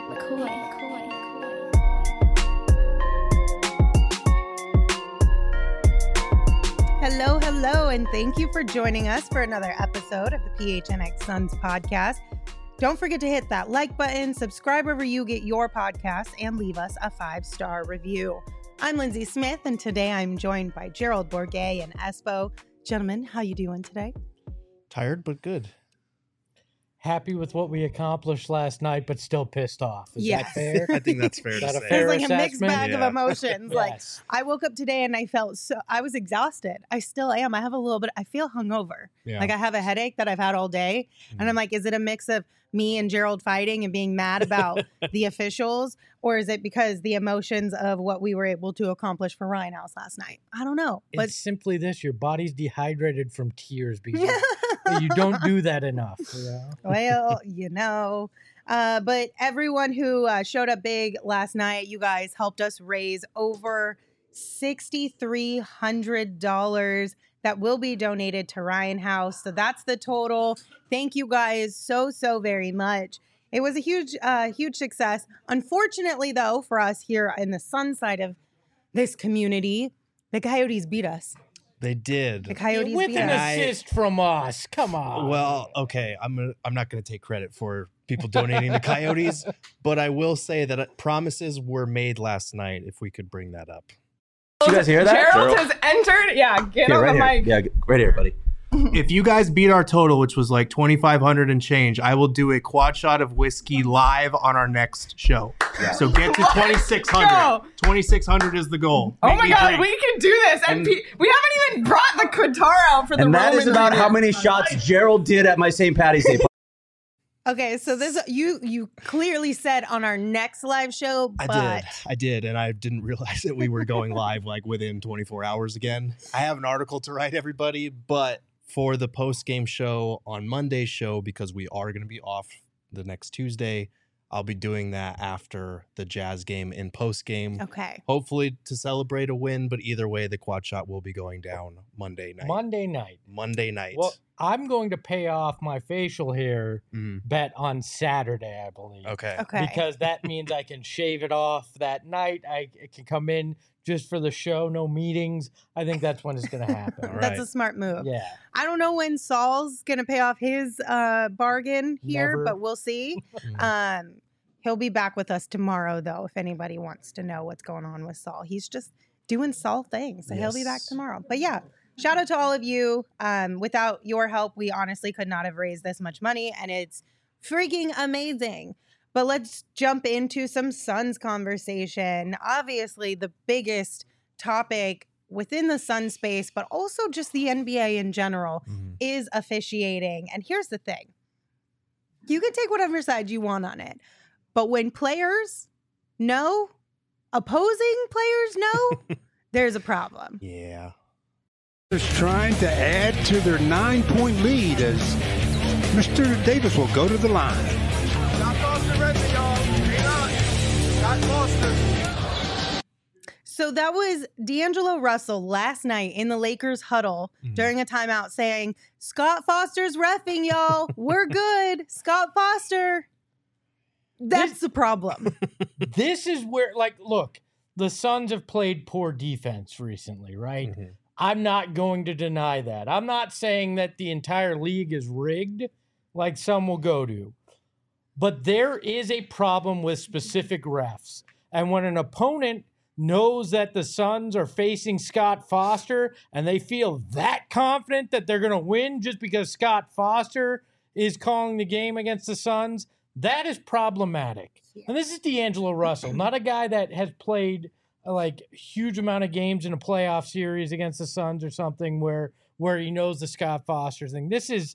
Hello, and thank you for joining us for another episode of the PHNX Suns podcast. Don't forget to hit that like button, subscribe wherever you get your podcasts, and leave us a 5-star review. I'm Lindsay Smith, and today I'm joined by Gerald Bourguet and Espo. Gentlemen, how you doing today? Tired, but good. Happy with what we accomplished last night, but still pissed off. Is that fair? I think that's fair to say. It was like a mixed bag of emotions. Yes. Like, I woke up today and I was exhausted. I still am. I feel hungover. Yeah. Like I have a headache that I've had all day. And I'm like, is it a mix of me and Gerald fighting and being mad about the officials? Or is it because the emotions of what we were able to accomplish for Ryan House last night? I don't know. But It's simply this. Your body's dehydrated from tears because you don't do that enough. Well, but everyone who showed up big last night, you guys helped us raise over $6,300 that will be donated to Ryan House. So that's the total. Thank you guys so very much. It was a huge success. Unfortunately, though, for us here in the Sun side of this community, the Coyotes beat us. They did. The Coyotes With beat an us. assist from us. Come on. Well, okay, I'm not going to take credit for people donating to Coyotes, but I will say that promises were made last night if we could bring that up. Did you guys hear that? Gerald has entered. Yeah, get on right the here. mic. Yeah, right here, buddy. If you guys beat our total, which was like 2,500 and change, I will do a quad shot of whiskey live on our next show. Yeah. So get to 2,600. go. 2,600 is the goal. Oh Make my me God, drink. we can do this. And we haven't even brought the Qatar out for the And that is Roman about how reading. many shots Gerald did at my St. Patty's Day. Okay, so this you clearly said on our next live show, but I did, and I didn't realize that we were going live like within 24 hours again. I have an article to write, everybody, but for the post-game show on Monday's show, because we are going to be off the next Tuesday, I'll be doing that after the Jazz game in post-game. okay. Hopefully to celebrate a win, but either way, the quad shot will be going down Monday night. Monday night. Well, I'm going to pay off my facial hair bet on Saturday, I believe. okay. Because that means I can shave it off that night. I can come in just for the show, no meetings. I think that's when it's going to happen. All That's right. a smart move. Yeah. I don't know when Saul's going to pay off his bargain here, Never. but we'll see. He'll be back with us tomorrow, though, if anybody wants to know what's going on with Saul. He's just doing Saul things, so he'll be back Yes. tomorrow. But yeah, shout out to all of you. Without your help, we honestly could not have raised this much money, and it's freaking amazing. But let's jump into some Suns conversation. Obviously, the biggest topic within the Sun space, but also just the NBA in general, is officiating. And here's the thing. You can take whatever side you want on it. But when players know, opposing players know, there's a problem. Yeah. Is trying to add to their 9-point lead as Mr. Davis will go to the line. So that was D'Angelo Russell last night in the Lakers huddle during a timeout saying, Scott Foster's reffing, y'all. We're good. Scott Foster. That's the problem. This is where, look, the Suns have played poor defense recently, right? I'm not going to deny that. I'm not saying that the entire league is rigged like some will go to. But there is a problem with specific refs. And when an opponent knows that the Suns are facing Scott Foster and they feel that confident that they're going to win just because Scott Foster is calling the game against the Suns, that is problematic. And this is D'Angelo Russell, not a guy that has played huge amount of games in a playoff series against the Suns or something where he knows the Scott Foster thing. This is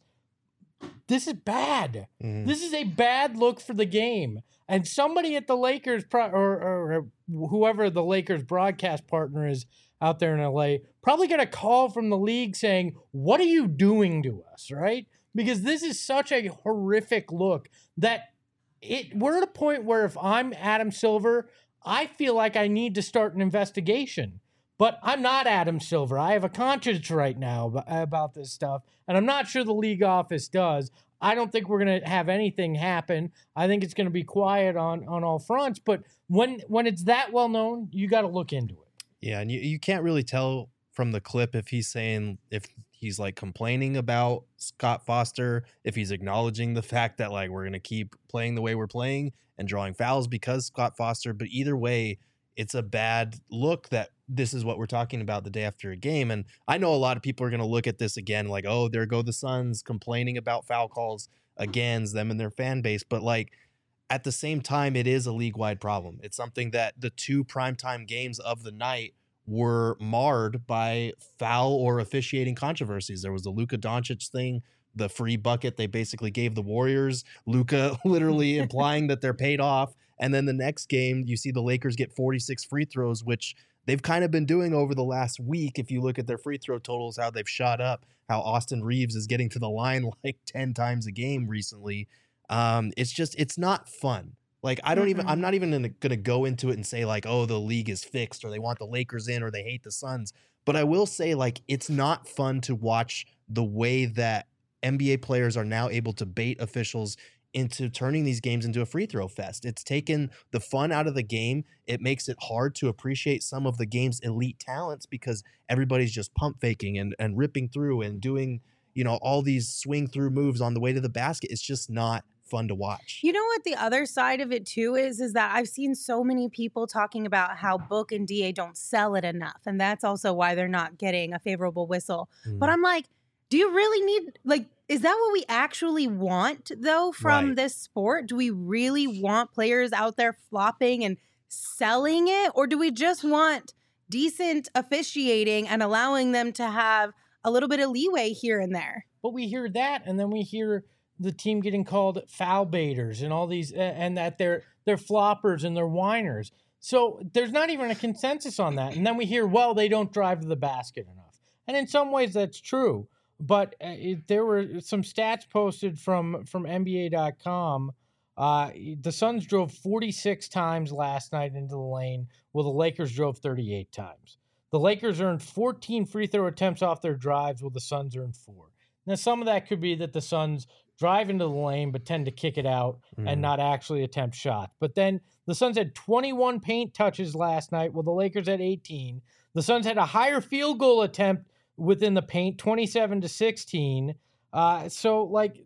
bad. This is a bad look for the game. And somebody at the Lakers or whoever the Lakers broadcast partner is out there in LA probably got a call from the league saying, "What are you doing to us?" Right? Because this is such a horrific look that we're at a point where if I'm Adam Silver, I feel like I need to start an investigation. But I'm not Adam Silver. I have a conscience right now about this stuff, and I'm not sure the league office does. I don't think we're going to have anything happen. I think it's going to be quiet on all fronts. But when it's that well known, you got to look into it. Yeah, and you can't really tell from the clip if he's like complaining about Scott Foster, if he's acknowledging the fact that like we're going to keep playing the way we're playing and drawing fouls because Scott Foster. But either way, it's a bad look that this is what we're talking about the day after a game. And I know a lot of people are going to look at this again like, oh, there go the Suns complaining about foul calls against them and their fan base. But like at the same time, it is a league-wide problem. It's something that the 2 primetime games of the night were marred by foul or officiating controversies. There was the Luka Doncic thing, the free bucket they basically gave the Warriors, Luka literally implying that they're paid off. And then the next game, you see the Lakers get 46 free throws, which they've kind of been doing over the last week. If you look at their free throw totals, how they've shot up, how Austin Reeves is getting to the line like 10 times a game recently. It's not fun. Like, I'm not even going to go into it and say like, oh, the league is fixed or they want the Lakers in or they hate the Suns. But I will say like, it's not fun to watch the way that NBA players are now able to bait officials into turning these games into a free throw fest. It's taken the fun out of the game. It makes it hard to appreciate some of the game's elite talents because everybody's just pump faking and ripping through and doing, all these swing through moves on the way to the basket. It's just not fun to watch. You know what the other side of it too is that I've seen so many people talking about how Book and DA don't sell it enough. And that's also why they're not getting a favorable whistle. But I'm like, do you really need, like, is that what we actually want though from this sport? Do we really want players out there flopping and selling it? Or do we just want decent officiating and allowing them to have a little bit of leeway here and there? But we hear that, and then we hear the team getting called foul baiters and all these, and that they're floppers and they're whiners. So there's not even a consensus on that. And then we hear, well, they don't drive to the basket enough. And in some ways that's true. But there were some stats posted from NBA.com. The Suns drove 46 times last night into the lane, while the Lakers drove 38 times. The Lakers earned 14 free throw attempts off their drives, while the Suns earned 4. Now, some of that could be that the Suns drive into the lane but tend to kick it out and not actually attempt shots. But then the Suns had 21 paint touches last night, while the Lakers had 18. The Suns had a higher field goal attempt within the paint, 27-16. So, like,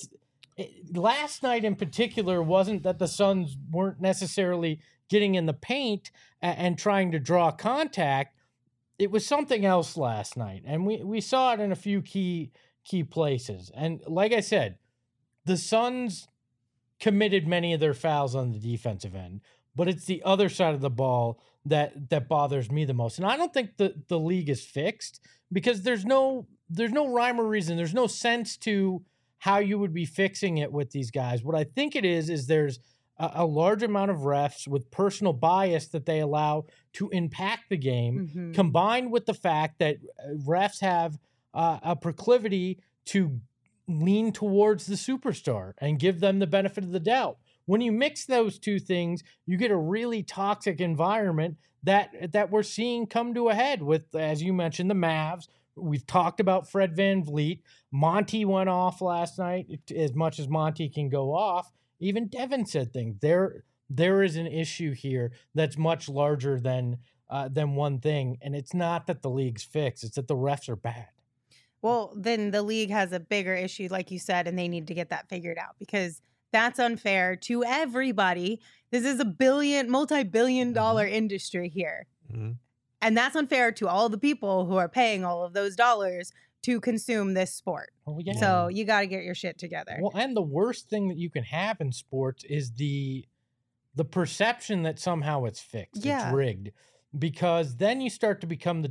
last night in particular wasn't that the Suns weren't necessarily getting in the paint and trying to draw contact. It was something else last night, and we saw it in a few key places. And like I said, the Suns committed many of their fouls on the defensive end, but it's the other side of the ball that bothers me the most. And I don't think the league is fixed because there's no rhyme or reason. There's no sense to how you would be fixing it with these guys. What I think it is there's a large amount of refs with personal bias that they allow to impact the game, combined with the fact that refs have a proclivity to lean towards the superstar and give them the benefit of the doubt. When you mix those two things, you get a really toxic environment that we're seeing come to a head with, as you mentioned, the Mavs. We've talked about Fred VanVleet. Monty went off last night, as much as Monty can go off. Even Devin said things. There is an issue here that's much larger than one thing, and it's not that the league's fixed. It's that the refs are bad. Well, then the league has a bigger issue, like you said, and they need to get that figured out because that's unfair to everybody. This is a multi-billion dollar industry here. And that's unfair to all the people who are paying all of those dollars to consume this sport. Oh, yeah. So you got to get your shit together. Well, and the worst thing that you can have in sports is the perception that somehow it's fixed. Yeah. It's rigged. Because then you start to become the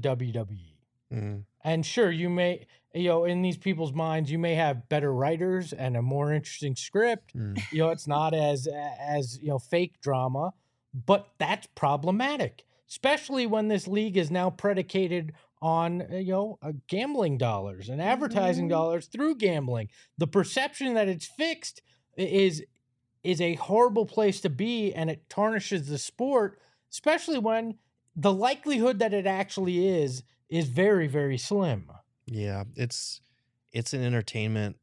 WWE. And sure, you may, in these people's minds, you may have better writers and a more interesting script. It's not as fake drama, but that's problematic, especially when this league is now predicated on, gambling dollars and advertising dollars through gambling. The perception that it's fixed is a horrible place to be, and it tarnishes the sport, especially when the likelihood that it actually is very, very slim. Yeah, it's an entertainment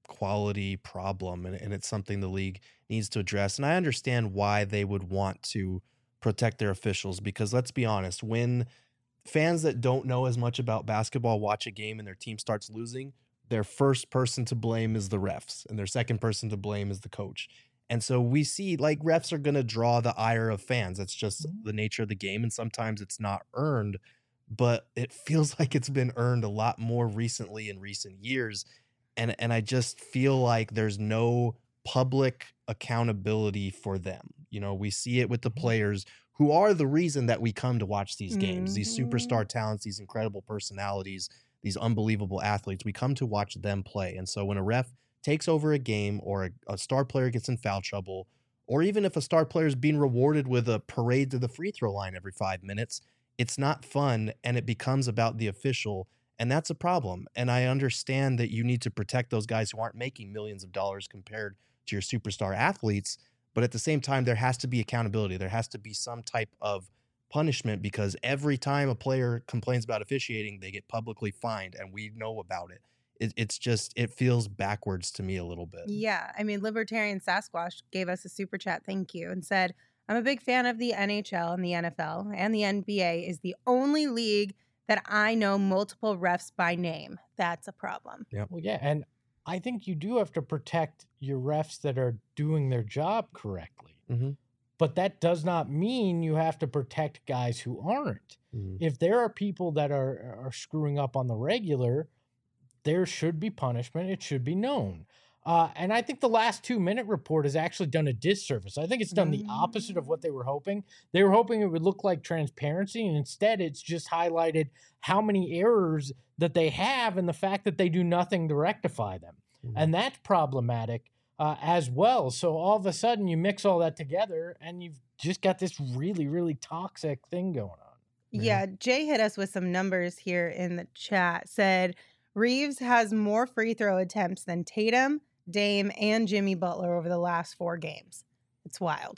quality problem, and it's something the league needs to address. And I understand why they would want to protect their officials, because let's be honest, when fans that don't know as much about basketball watch a game and their team starts losing, their first person to blame is the refs, and their second person to blame is the coach. And so we see like refs are going to draw the ire of fans. That's just the nature of the game. And sometimes it's not earned, but it feels like it's been earned a lot more recently in recent years. And I just feel like there's no public accountability for them. You know, we see it with the players who are the reason that we come to watch these games, these superstar talents, these incredible personalities, these unbelievable athletes. We come to watch them play. And so when a ref takes over a game, or a star player gets in foul trouble, or even if a star player is being rewarded with a parade to the free throw line every 5 minutes, it's not fun, and it becomes about the official, and that's a problem. And I understand that you need to protect those guys who aren't making millions of dollars compared to your superstar athletes, but at the same time, there has to be accountability. There has to be some type of punishment, because every time a player complains about officiating, they get publicly fined, and we know about it. It's just, it feels backwards to me a little bit. Yeah. I mean, Libertarian Sasquatch gave us a super chat, thank you, and said, I'm a big fan of the NHL and the NFL, and the NBA is the only league that I know multiple refs by name. That's a problem. Yeah. Well, yeah. And I think you do have to protect your refs that are doing their job correctly. Mm-hmm. But that does not mean you have to protect guys who aren't. Mm-hmm. If there are people that are screwing up on the regular, there should be punishment. It should be known. And I think the last 2-minute report has actually done a disservice. I think it's done the opposite of what they were hoping. They were hoping it would look like transparency, and instead it's just highlighted how many errors that they have and the fact that they do nothing to rectify them. Mm-hmm. And that's problematic as well. So all of a sudden you mix all that together and you've just got this really, really toxic thing going on. Yeah. Jay hit us with some numbers here in the chat. Said Reeves has more free throw attempts than Tatum, Dame, and Jimmy Butler over the last 4 games. It's wild.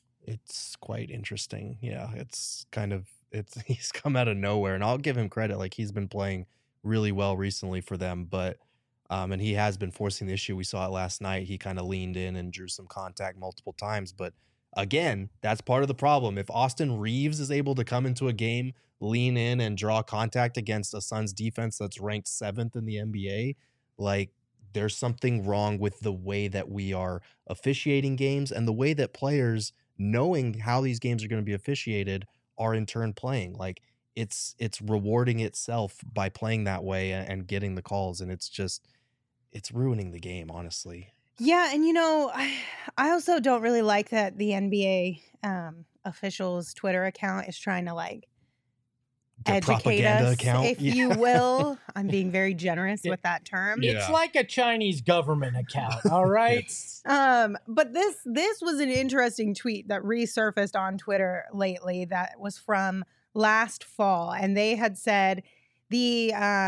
It's quite interesting. Yeah, he's come out of nowhere, and I'll give him credit. Like, he's been playing really well recently for them, but and he has been forcing the issue. We saw it last night. He kind of leaned in and drew some contact multiple times, but again, that's part of the problem. If Austin Reeves is able to come into a game, lean in, and draw contact against a Suns defense that's ranked 7th in the NBA, like, there's something wrong with the way that we are officiating games and the way that players, knowing how these games are going to be officiated, are in turn playing. Like, it's rewarding itself by playing that way and getting the calls, and it's ruining the game, honestly. Yeah, and I also don't really like that the NBA officials' Twitter account is trying to Their educate us, account. if you will. I'm being very generous with that term. It's like a Chinese government account, all right? But this was an interesting tweet that resurfaced on Twitter lately that was from last fall, and they had said the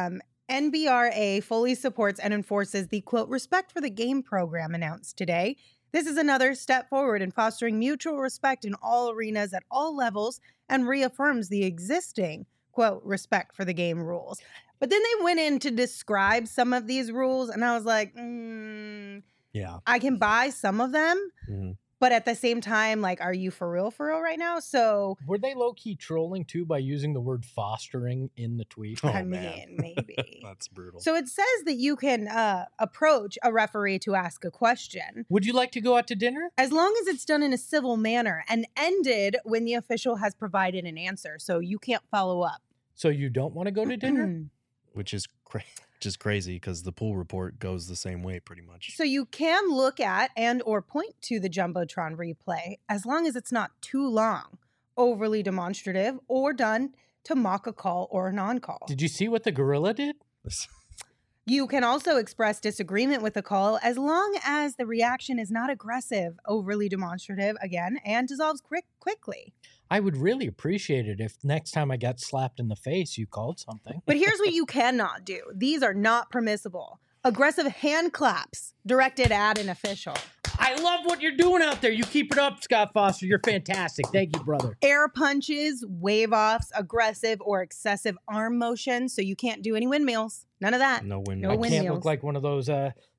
NBRA fully supports and enforces the, quote, Respect for the Game program announced today. This is another step forward in fostering mutual respect in all arenas at all levels and reaffirms the existing, quote, Respect for the Game rules. But then they went in to describe some of these rules, and I was like, yeah, I can buy some of them. Mm-hmm. But at the same time, like, are you for real right now? So were they low-key trolling too by using the word fostering in the tweet? I mean, maybe. That's brutal. So it says that you can approach a referee to ask a question. Would you like to go out to dinner? As long as it's done in a civil manner and ended when the official has provided an answer. So you can't follow up. So you don't want to go to dinner? Which is crazy because the pool report goes the same way pretty much. So you can look at and or point to the Jumbotron replay as long as it's not too long, overly demonstrative, or done to mock a call or a non-call. Did you see what the gorilla did? You can also express disagreement with the call as long as the reaction is not aggressive, overly demonstrative, again, and dissolves quickly. I would really appreciate it if next time I got slapped in the face, you called something. But here's what you cannot do. These are not permissible. Aggressive hand claps directed at an official. I love what you're doing out there. You keep it up, Scott Foster. You're fantastic. Thank you, brother. Air punches, wave-offs, aggressive or excessive arm motion. So you can't do any windmills. None of that. No windmills. I can't look like one of those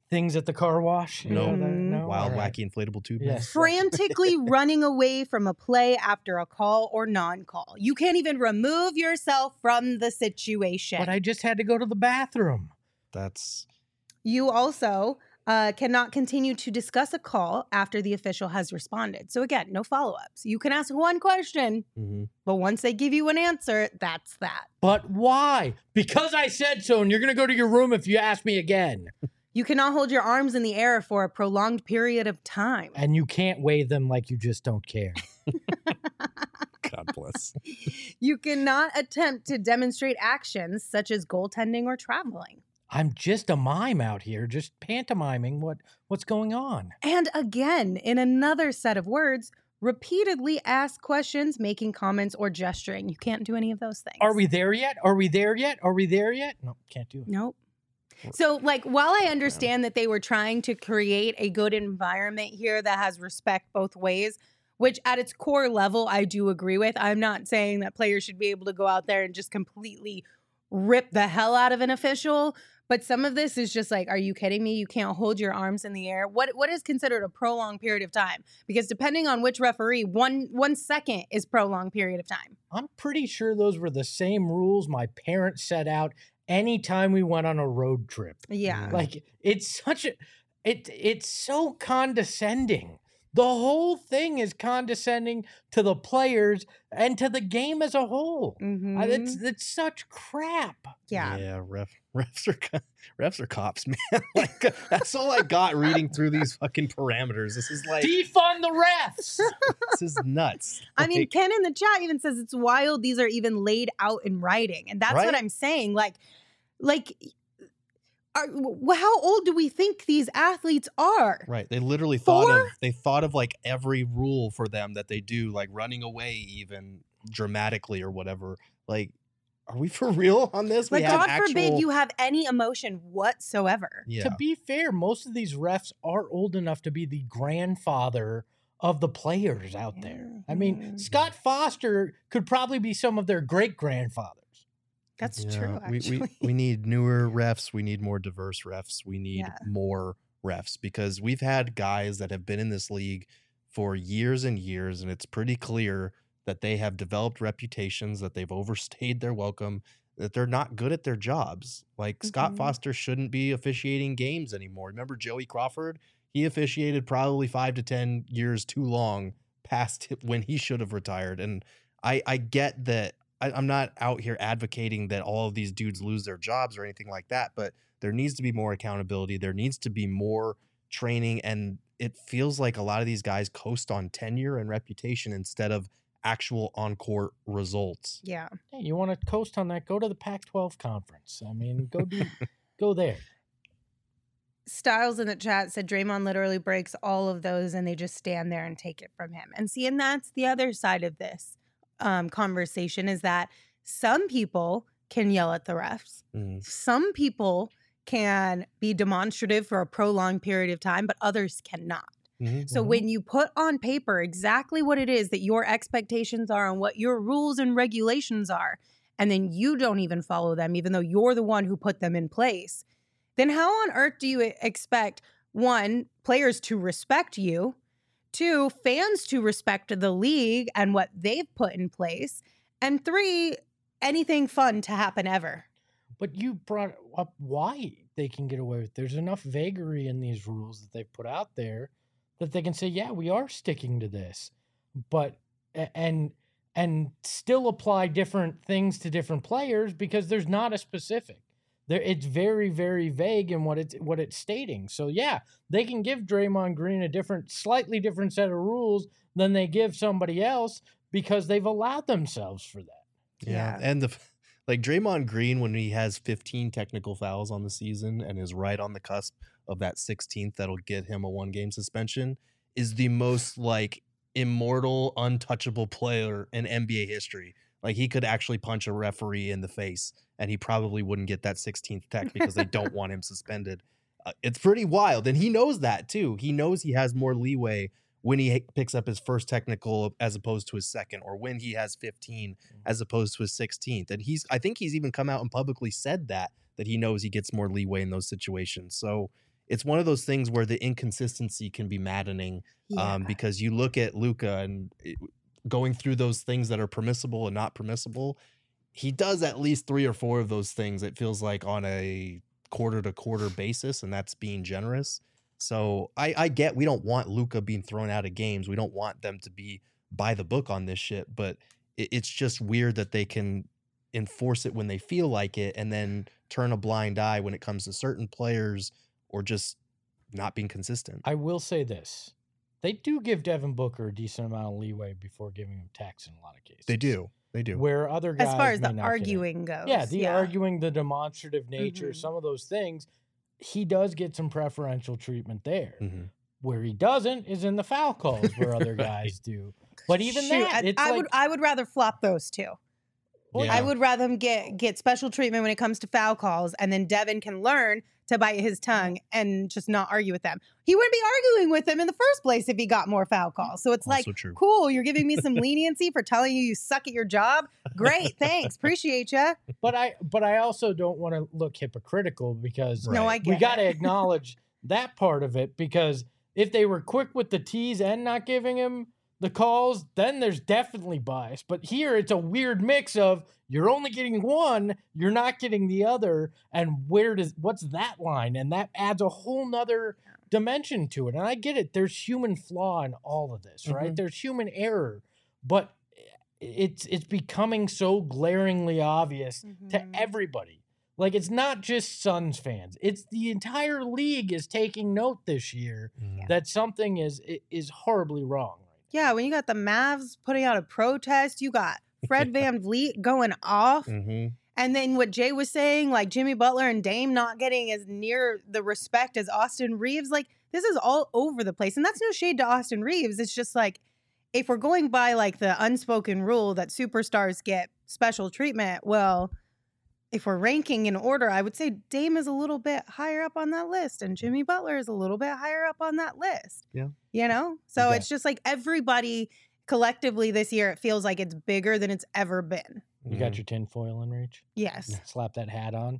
things at the car wash? No. No? Wild, All right. wacky, inflatable tube. Yes. Frantically running away from a play after a call or non-call. You can't even remove yourself from the situation. But I just had to go to the bathroom. That's You also cannot continue to discuss a call after the official has responded. So again, no follow-ups. You can ask one question, but once they give you an answer, that's that. But why? Because I said so, and you're going to go to your room if you ask me again. You cannot hold your arms in the air for a prolonged period of time. And you can't wave them like you just don't care. God bless. You cannot attempt to demonstrate actions such as goaltending or traveling. I'm just a mime out here, just pantomiming what's going on. And again, in another set of words, repeatedly ask questions, making comments, or gesturing. You can't do any of those things. Are we there yet? Are we there yet? Are we there yet? No, can't do it. Nope. So, like, while I understand that they were trying to create a good environment here that has respect both ways, which at its core level, I do agree with. I'm not saying that players should be able to go out there and just completely rip the hell out of an official. But some of this is just like, are you kidding me? You can't hold your arms in the air. What is considered a prolonged period of time? Because depending on which referee, 1 second is prolonged period of time. I'm pretty sure those were the same rules my parents set out anytime we went on a road trip. Yeah. Like, it's such a it's so condescending. The whole thing is condescending to the players and to the game as a whole. It's such crap. Yeah. Yeah, refs are cops, man. Like, that's all I got reading through these fucking parameters. This is like Defund the refs. this is nuts. I mean, Like, Ken in the chat even says it's wild these are even laid out in writing. And that's what Right? I'm saying. How old do we think these athletes are? right. They literally 4? thought of like every rule for them that they do, like running away even dramatically or whatever. Like, are we for real on this? Like, We have God forbid actual- you have any emotion whatsoever. Yeah. To be fair, most of these refs are old enough to be the grandfather of the players out there. I mean, Scott Foster could probably be some of their great-grandfathers. That's Yeah, true, actually. we need newer refs. We need more diverse refs. We need Yeah. more refs because we've had guys that have been in this league for years and years, and it's pretty clear that they have developed reputations, that they've overstayed their welcome, that they're not good at their jobs. Like Scott Mhm. Foster shouldn't be officiating games anymore. Remember Joey Crawford? He officiated probably 5 to 10 years too long past when he should have retired. And I get that. I'm not out here advocating that all of these dudes lose their jobs or anything like that, but there needs to be more accountability. There needs to be more training. And it feels like a lot of these guys coast on tenure and reputation instead of actual on-court results. Yeah. Hey, you want to coast on that? Go to the Pac-12 conference. I mean, go there. Styles in the chat said Draymond literally breaks all of those and they just stand there and take it from him. And see, and that's the other side of this conversation is that some people can yell at the refs. Some people can be demonstrative for a prolonged period of time, but others cannot. So when you put on paper exactly what it is that your expectations are and what your rules and regulations are, and then you don't even follow them, even though you're the one who put them in place, then how on earth do you expect, 1, players to respect you, 2, fans to respect the league and what they've put in place, and 3, anything fun to happen ever? But you brought up why they can get away with it. There's enough vagary in these rules that they've put out there that they can say, yeah, we are sticking to this, but and still apply different things to different players because there's not a specific. There, it's very, very vague in what it's stating. So yeah, they can give Draymond Green a slightly different set of rules than they give somebody else because they've allowed themselves for that. Yeah. And like Draymond Green, when he has 15 technical fouls on the season and is right on the cusp of that 16th that'll get him a 1-game suspension, is the most like immortal, untouchable player in NBA history. Like he could actually punch a referee in the face and he probably wouldn't get that 16th tech because they don't want him suspended. It's pretty wild. And he knows that too. He knows he has more leeway when he picks up his first technical as opposed to his second, or when he has 15 as opposed to his 16th. And I think he's even come out and publicly said that he knows he gets more leeway in those situations. So it's one of those things where the inconsistency can be maddening because you look at Luka and going through those things that are permissible and not permissible. He does at least 3 or 4 of those things, it feels like, on a quarter-to-quarter basis, and that's being generous. So I get we don't want Luka being thrown out of games. We don't want them to be by the book on this shit, but it's just weird that they can enforce it when they feel like it and then turn a blind eye when it comes to certain players or just not being consistent. I will say this. They do give Devin Booker a decent amount of leeway before giving him tax in a lot of cases. They do. They do. Where other guys, as far as may the not get it. arguing goes. Yeah, the arguing, the demonstrative nature, some of those things, he does get some preferential treatment there. Where he doesn't is in the foul calls where other guys do. But even that, it's I would rather flop those two. Yeah. I would rather him get special treatment when it comes to foul calls, and then Devin can learn to bite his tongue and just not argue with them. He wouldn't be arguing with them in the first place if he got more foul calls. So it's Also like, true. cool, you're giving me some leniency for telling you suck at your job. Great, thanks, appreciate you. But I also don't want to look hypocritical because No, I get we got to it. acknowledge that part of it, because if they were quick with the T's and not giving him the calls, then there's definitely bias. But here it's a weird mix of you're only getting one, you're not getting the other, and what's that line? And that adds a whole nother dimension to it. And I get it. There's human flaw in all of this, right? There's human error, but it's becoming so glaringly obvious to everybody. Like, it's not just Suns fans. It's the entire league is taking note this year that something is horribly wrong. Yeah, when you got the Mavs putting out a protest, you got Fred Van Vliet going off. And then what Jay was saying, like Jimmy Butler and Dame not getting as near the respect as Austin Reeves. Like, this is all over the place. And that's no shade to Austin Reeves. It's just like, if we're going by like the unspoken rule that superstars get special treatment, well, if we're ranking in order, I would say Dame is a little bit higher up on that list and Jimmy Butler is a little bit higher up on that list. Yeah. You know? So it's just like everybody collectively this year, it feels like it's bigger than it's ever been. You got your tinfoil in reach? Yes. Slap that hat on.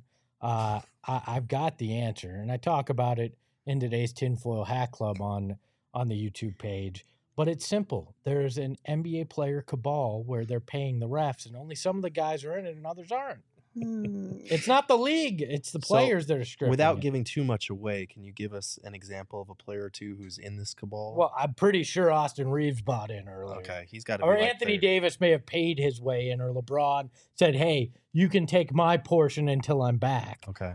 I've got the answer, and I talk about it in today's Tinfoil Hat Club on the YouTube page. But it's simple. There's an NBA player cabal where they're paying the refs, and only some of the guys are in it and others aren't. It's not the league. It's the players that are scripting Without it. giving too much away, can you give us an example of a player or two who's in this cabal? Well, I'm pretty sure Austin Reeves bought in earlier. Okay, he's got to Or be like Anthony there. Davis may have paid his way in, or LeBron said, hey, you can take my portion until I'm back. Okay.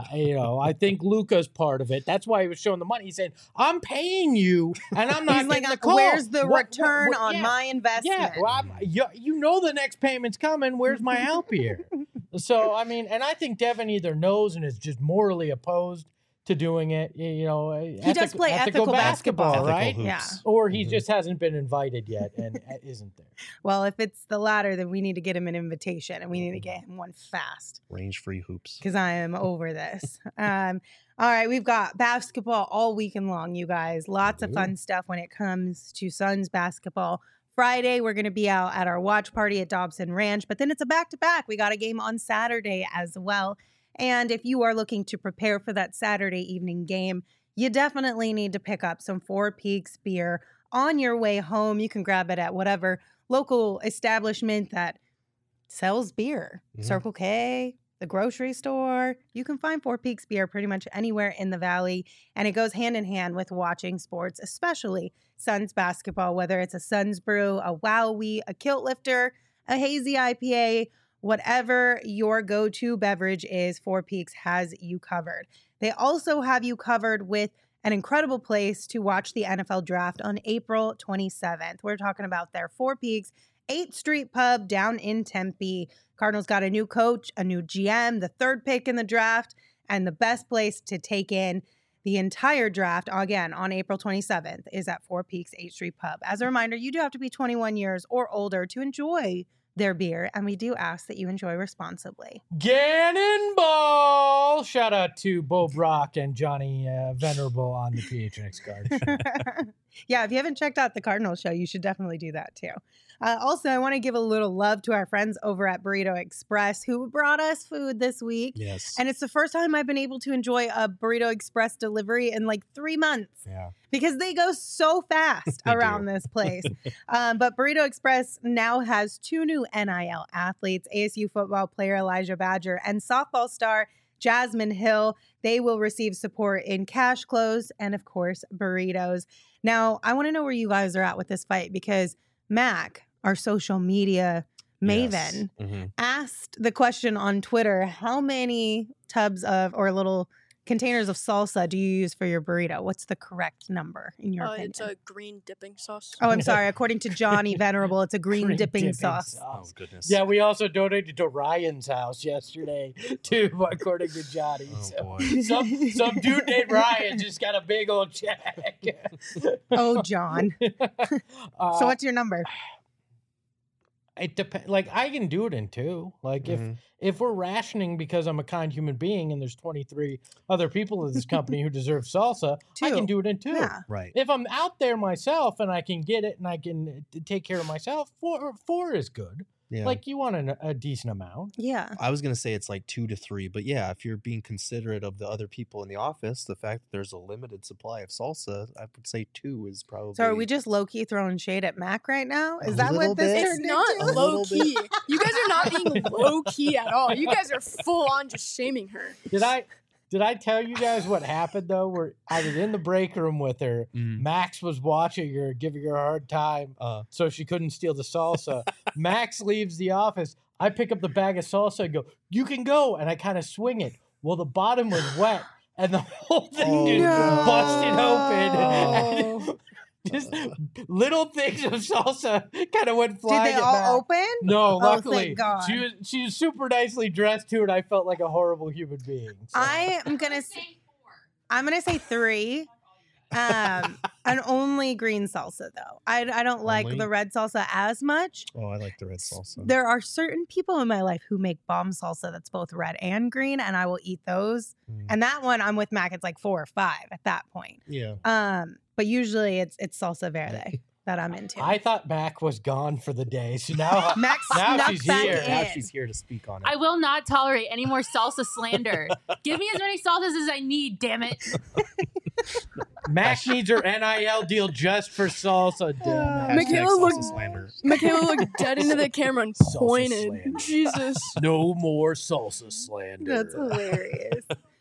I think Luka's part of it. That's why he was showing the money. He said, I'm paying you, and I'm not He's like, getting the call. where's the return what- on yeah. my investment? Yeah, well, you know the next payment's coming. Where's my help here? So, I mean, and I think Devin either knows and is just morally opposed to doing it. He does play ethical basketball, Ethical right? hoops. Yeah. Or he just hasn't been invited yet and isn't there. Well, if it's the latter, then we need to get him an invitation and we need to get him one fast Range-free hoops. because I am over this. All right, we've got basketball all weekend long, you guys. Lots of fun stuff when it comes to Suns basketball. Friday, we're going to be out at our watch party at Dobson Ranch, but then it's a back-to-back. We got a game on Saturday as well. And if you are looking to prepare for that Saturday evening game, you definitely need to pick up some Four Peaks beer on your way home. You can grab it at whatever local establishment that sells beer. Circle K, the grocery store. You can find Four Peaks beer pretty much anywhere in the Valley. And it goes hand in hand with watching sports, especially Suns basketball, whether it's a Suns brew, a Wowee, a Kilt Lifter, a hazy IPA, whatever your go-to beverage is, Four Peaks has you covered. They also have you covered with an incredible place to watch the NFL draft on April 27th. We're talking about their Four Peaks 8th Street Pub down in Tempe. Cardinals got a new coach, a new GM, the third pick in the draft, and the best place to take in the entire draft, again, on April 27th, is at Four Peaks 8th Street Pub. As a reminder, you do have to be 21 years or older to enjoy their beer, and we do ask that you enjoy responsibly. Gannon Ball! Shout out to Bo Brock and Johnny Venerable on the PHNX card. Yeah, if you haven't checked out the Cardinals show, you should definitely do that too. Also, I want to give a little love to our friends over at Burrito Express who brought us food this week. Yes. And it's the first time I've been able to enjoy a Burrito Express delivery in like 3 months. Yeah. Because they go so fast They around do. this place. But Burrito Express now has 2 new NIL athletes, ASU football player Elijah Badger and softball star Jasmine Hill. They will receive support in cash, clothes, and of course, burritos. Now, I want to know where you guys are at with this fight because Mac, our social media maven, Mhm. asked the question on Twitter, how many tubs of or little containers of salsa do you use for your burrito? What's the correct number in your opinion? It's a green dipping sauce. Oh, I'm sorry. According to Johnny Venerable, it's a green dipping sauce. Oh, goodness. Yeah, we also donated to Ryan's house yesterday, too, according to Johnny. Oh, So boy. some dude named Ryan just got a big old check. Oh, John. So what's your number? It depends. Like, I can do it in 2. Like, Mhm. if we're rationing because I'm a kind human being and there's 23 other people in this company who deserve salsa, I can 2. do it in 2. Yeah. Right. If I'm out there myself and I can get it and I can take care of myself, 4 is good. Yeah. Like, you want a decent amount. Yeah. I was gonna say it's like 2 to 3, but yeah, if you're being considerate of the other people in the office, the fact that there's a limited supply of salsa, I would say 2 is probably. So are we just low key throwing shade at Mac right now? Is A that little what this bit. It's turned not into? low key. You guys are not being low key at all. You guys are full on just shaming her. Did I tell you guys what happened though? Where I was in the break room with her. Mm. Max was watching her, giving her a hard time, so she couldn't steal the salsa. Max leaves the office. I pick up the bag of salsa and go, "You can go," and I kind of swing it. Well, the bottom was wet, and the whole thing just busted open. And just little things of salsa kind of went Did flying. they at all Max. open? No, Oh, luckily thank God. she was super nicely dressed too, and I felt like a horrible human being. So. I'm gonna say 3. And only green salsa though. I don't like Only? the red salsa as much. Oh, I like the red salsa. There are certain people in my life who make bomb salsa that's both red and green, and I will eat those. Mm. And that one, I'm with Mac. It's like 4 or 5 at that point. Yeah. But usually it's salsa verde that I'm into. I thought Mac was gone for the day, so now Max now snuck she's back here. in. Now she's here to speak on it. I will not tolerate any more salsa slander. Give me as many salsas as I need, damn it. Mac needs her NIL deal just for salsa. Damn it. Hashtag Michaela salsa looked- slander. Michaela looked dead into the camera and Salsa pointed. slander. Jesus. No more salsa slander. That's hilarious.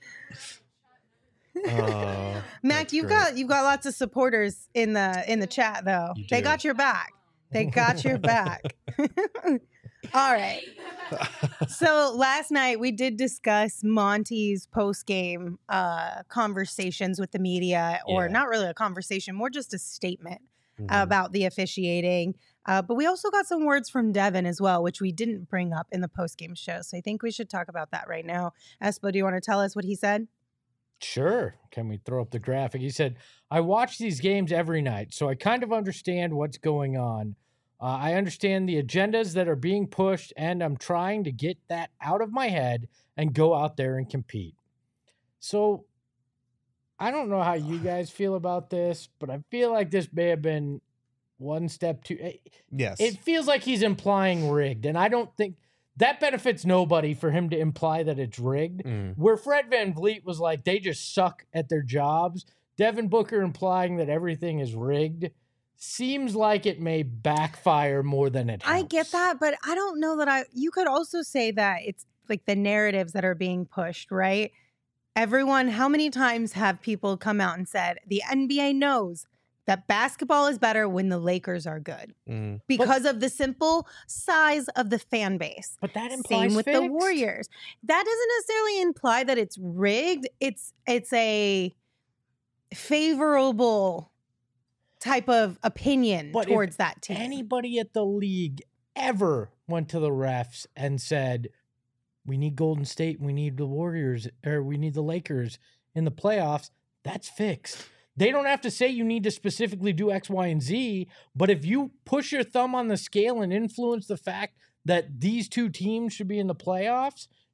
Mac, Mac, you've got lots of supporters in the chat though. You They do. got your back. They got your back. All right. So last night we did discuss Monty's post-game conversations with the media, or Yeah. not really a conversation, more just a statement Mhm. about the officiating. But we also got some words from Devin as well, which we didn't bring up in the post-game show. So I think we should talk about that right now. Espo, do you want to tell us what he said? Sure. Can we throw up the graphic? He said, I watch these games every night, so I kind of understand what's going on. I understand the agendas that are being pushed, and I'm trying to get that out of my head and go out there and compete. So I don't know how you guys feel about this, but I feel like this may have been one step too. Yes. It feels like he's implying rigged, and I don't think that benefits nobody for him to imply that it's rigged. Mm. Where Fred VanVleet was like, they just suck at their jobs. Devin Booker implying that everything is rigged seems like it may backfire more than it helps. I get that, but I don't know that you could also say that it's like the narratives that are being pushed, right? Everyone, how many times have people come out and said the NBA knows that basketball is better when the Lakers are good Mm. because of the simple size of the fan base. But that implies Same with the fixed. Warriors. That doesn't necessarily imply that it's rigged. It's a favorable type of opinion But if towards that team. Anybody at the league ever went to the refs and said, we need Golden State, we need the Warriors, or we need the Lakers in the playoffs, that's fixed. They don't have to say you need to specifically do X, Y, and Z, but if you push your thumb on the scale and influence the fact that these two teams should be in the playoffs,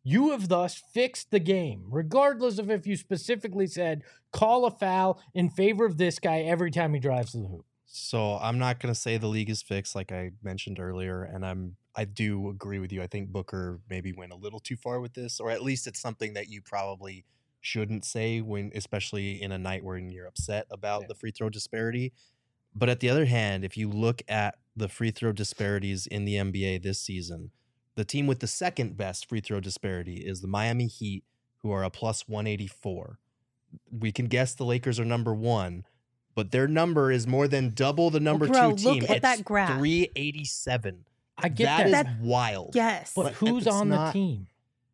You have thus fixed the game, regardless of if you specifically said call a foul in favor of this guy every time he drives to the hoop. So I'm not going to say the league is fixed, like I mentioned earlier, and I do agree with you. I think Booker maybe went a little too far with this, or at least it's something that you probably shouldn't say when, especially in a night where you're upset about the free throw disparity. But at the other hand, if you look at the free throw disparities in the NBA this season, the team with the second best free throw disparity is the Miami Heat, who are a plus 184. We can guess the Lakers are number one, but their number is more than double the number two team. Look at that graph. 387. I get that is wild. Yes. But who's on the team?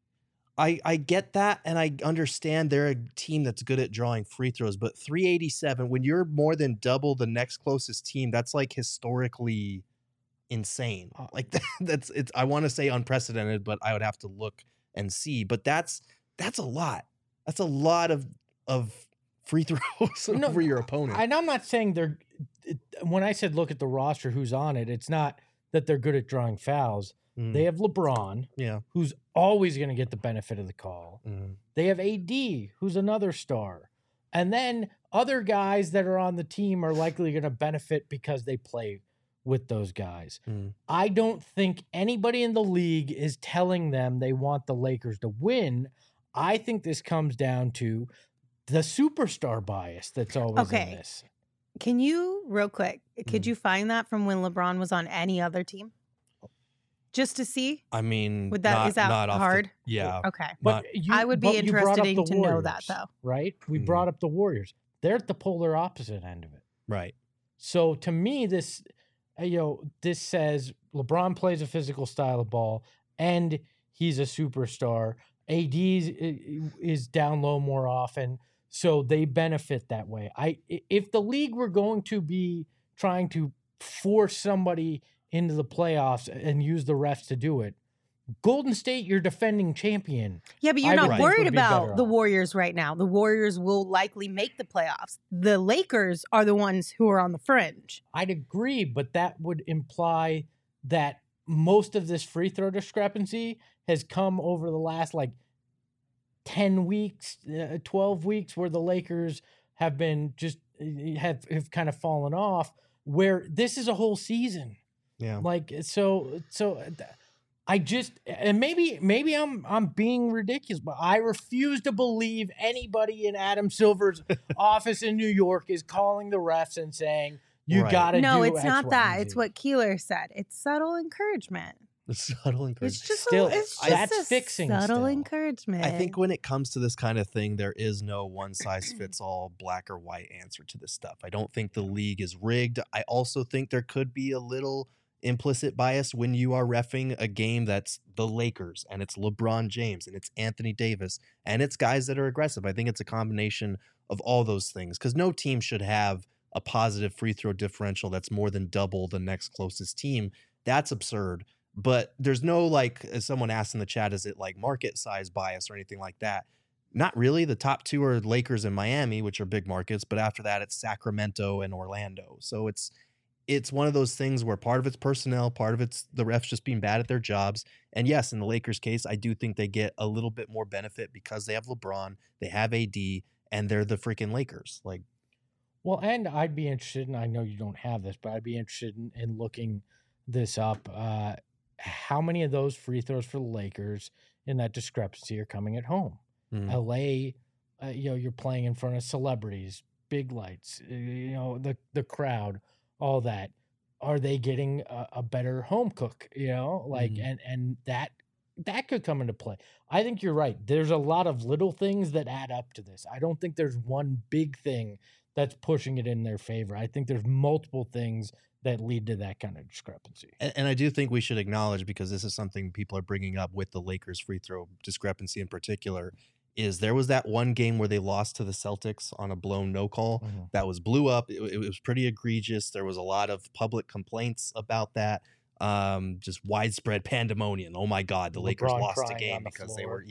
I get that, and I understand they're a team that's good at drawing free throws, but 387, when you're more than double the next closest team, that's like historically insane. Like that's it's. I want to say unprecedented, but I would have to look and see. But that's a lot. That's a lot of free throws over your opponent. And I'm not saying they're. When I said look at the roster, who's on it, it's not that they're good at drawing fouls. They have LeBron, who's always going to get the benefit of the call. They have AD, who's another star. And then other guys that are on the team are likely going to benefit because they play with those guys. I don't think anybody in the league is telling them they want the Lakers to win. I think this comes down to the superstar bias that's always in this. Can you, real quick, could you find that from when LeBron was on any other team? Just to see? I mean, is that not hard? Yeah. Okay. But I would be interested to know that, though. Right? We brought up the Warriors. They're at the polar opposite end of it. Right. So to me, this says LeBron plays a physical style of ball and he's a superstar. AD is down low more often, so they benefit that way. If the league were going to be trying to force somebody into the playoffs and use the refs to do it, Golden State, you're defending champion. Yeah, but you're not worried about the Warriors right now. The Warriors will likely make the playoffs. The Lakers are the ones who are on the fringe. I'd agree, but that would imply that most of this free throw discrepancy has come over the last 10 weeks, 12 weeks, where the Lakers have been have kind of fallen off, where this is a whole season. Yeah. I just, and maybe I'm being ridiculous, but I refuse to believe anybody in Adam Silver's office in New York is calling the refs and saying, you got to do No, it's X, not Y, that. and Z. It's what Keeler said. It's subtle encouragement. Subtle encouragement. It's just that's a fixing subtle still. encouragement. I think when it comes to this kind of thing, there is no one size fits all black or white answer to this stuff. I don't think the league is rigged. I also think there could be a little implicit bias when you are reffing a game that's the Lakers and it's LeBron James and it's Anthony Davis and it's guys that are aggressive. I think it's a combination of all those things, because no team should have a positive free throw differential that's more than double the next closest team. That's absurd. But there's no, as someone asked in the chat, is it market size bias or anything like that? Not really. The top two are Lakers and Miami, which are big markets, but after that it's Sacramento and Orlando. So it's one of those things where part of it's personnel, part of it's the refs just being bad at their jobs. And yes, in the Lakers case, I do think they get a little bit more benefit because they have LeBron, they have AD, and they're the freaking Lakers. Well, and I'd be interested, and I know you don't have this, but I'd be interested in looking this up. How many of those free throws for the Lakers in that discrepancy are coming at home? LA, you're playing in front of celebrities, big lights, the crowd, all that. Are they getting a better home cook? And that could come into play. I think you're right. There's a lot of little things that add up to this. I don't think there's one big thing that's pushing it in their favor. I think there's multiple things that lead to that kind of discrepancy. And I do think we should acknowledge, because this is something people are bringing up with the Lakers free throw discrepancy in particular, is there was that one game where they lost to the Celtics on a blown no call that was blew up. It was pretty egregious. There was a lot of public complaints about that. Just widespread pandemonium. Oh my God, the Lakers lost a game because they were,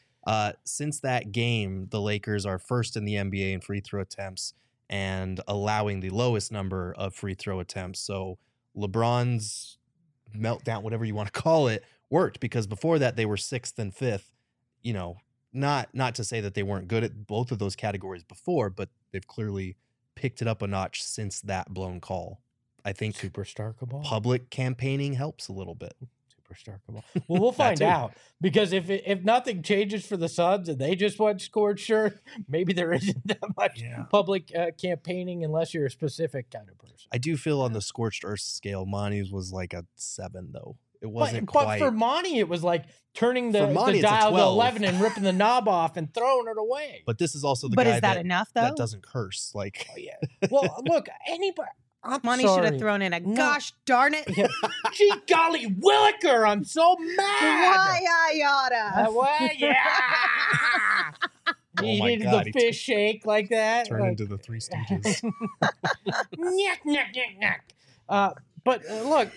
since that game, the Lakers are first in the NBA in free throw attempts and allowing the lowest number of free throw attempts. So LeBron's meltdown, whatever you want to call it, worked, because before that they were 6th and 5th you know, not to say that they weren't good at both of those categories before, but they've clearly picked it up a notch since that blown call. I think Superstar Cabal. public campaigning helps a little bit. Superstar Cabal. Well, we'll find too. out, because if nothing changes for the Suns and they just went scored shirt, maybe there isn't that much public campaigning unless you're a specific kind of person. I do feel on the scorched earth scale, Monty's was like a 7 though. It wasn't But quite. for Monty, it was like turning the Monty, it's a dial to 12. 11 and ripping the knob off and throwing it away. But this is also the But guy is that enough, though? that doesn't curse. Like, Well, look, anybody. I'm Monty should have sorry. thrown in a No. gosh darn it. Gee golly williker, I'm so mad. Why I oughta. Why, yeah. Oh He my did God, the he fish shake like that. turn like, into the Three Stooges. Nyek, nyek, nyek, nyek. But look,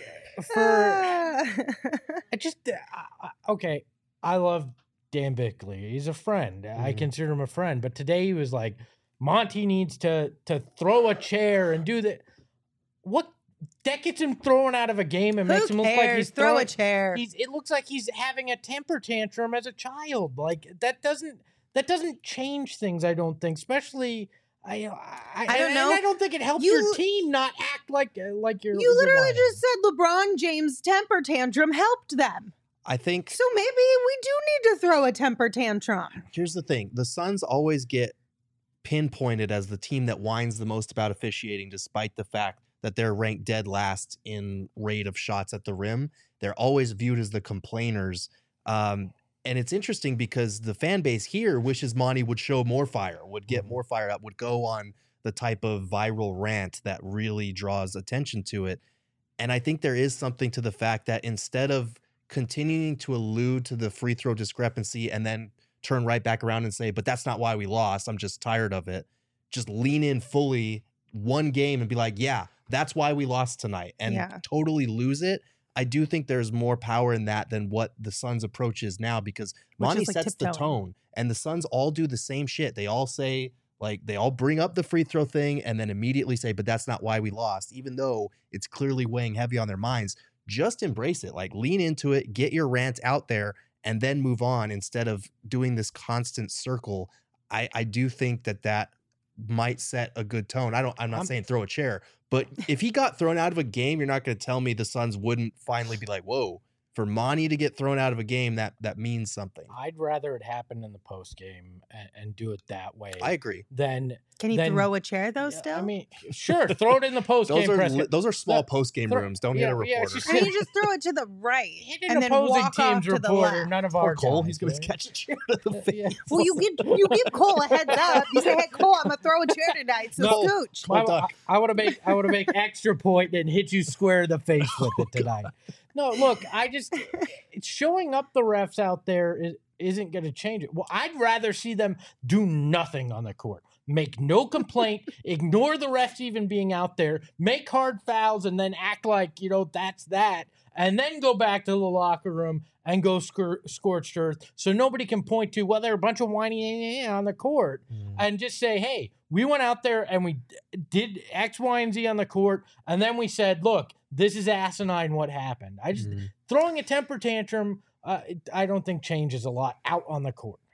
I just okay. I love Dan Bickley. He's a friend. I consider him a friend. But today he was like, Monty needs to throw a chair and do that. What that gets him thrown out of a game and makes him look like he's Throw throwing a chair. It looks like he's having a temper tantrum as a child. Like that doesn't change things. I don't think, especially. I don't know. And I don't think it helps your team not act like you're. You literally just said LeBron James' temper tantrum helped them. I think So maybe we do need to throw a temper tantrum. here's the thing: the Suns always get pinpointed as the team that whines the most about officiating, despite the fact that they're ranked dead last in rate of shots at the rim. They're always viewed as the complainers. And it's interesting because the fan base here wishes Monty would show more fire, would get more fired up, would go on the type of viral rant that really draws attention to it. And I think there is something to the fact that instead of continuing to allude to the free throw discrepancy and then turn right back around and say, but that's not why we lost, I'm just tired of it, just lean in fully one game and be like, yeah, that's why we lost tonight, and totally lose it. I do think there's more power in that than what the Suns' approach is now, because Monty sets the tone, and the Suns all do the same shit. They all say, like, they all bring up the free throw thing and then immediately say, but that's not why we lost, even though it's clearly weighing heavy on their minds. Just embrace it, like lean into it, get your rant out there, and then move on instead of doing this constant circle. I do think that might set a good tone. I'm not saying throw a chair, but if he got thrown out of a game, you're not going to tell me the Suns wouldn't finally be like, whoa, for Monty to get thrown out of a game, that means something. I'd rather it happen in the post game and do it that way. I agree. Can he throw a chair though? Still, I mean, sure, throw it in the post game. Those are small post game rooms. Don't hit a reporter. and you just throw it to the right, hit and an then opposing walk off team's to the reporter. left. None of our Cole, guys, he's going to right? catch a chair to the face. Well, you give Cole a heads up. You say, "Hey, Cole, I'm gonna throw a chair tonight." So scooch. I would have make extra point and hit you square in the face with it tonight. No, look, it's showing up the refs out there isn't going to change it. Well, I'd rather see them do nothing on the court. Make no complaint, ignore the refs even being out there, make hard fouls, and then act like, that's that, and then go back to the locker room and go scorched earth so nobody can point to, well, they're a bunch of whiny on the court, and just say, hey, we went out there and we did X, Y, and Z on the court, and then we said, look, this is asinine what happened. I just throwing a temper tantrum, I don't think changes a lot out on the court.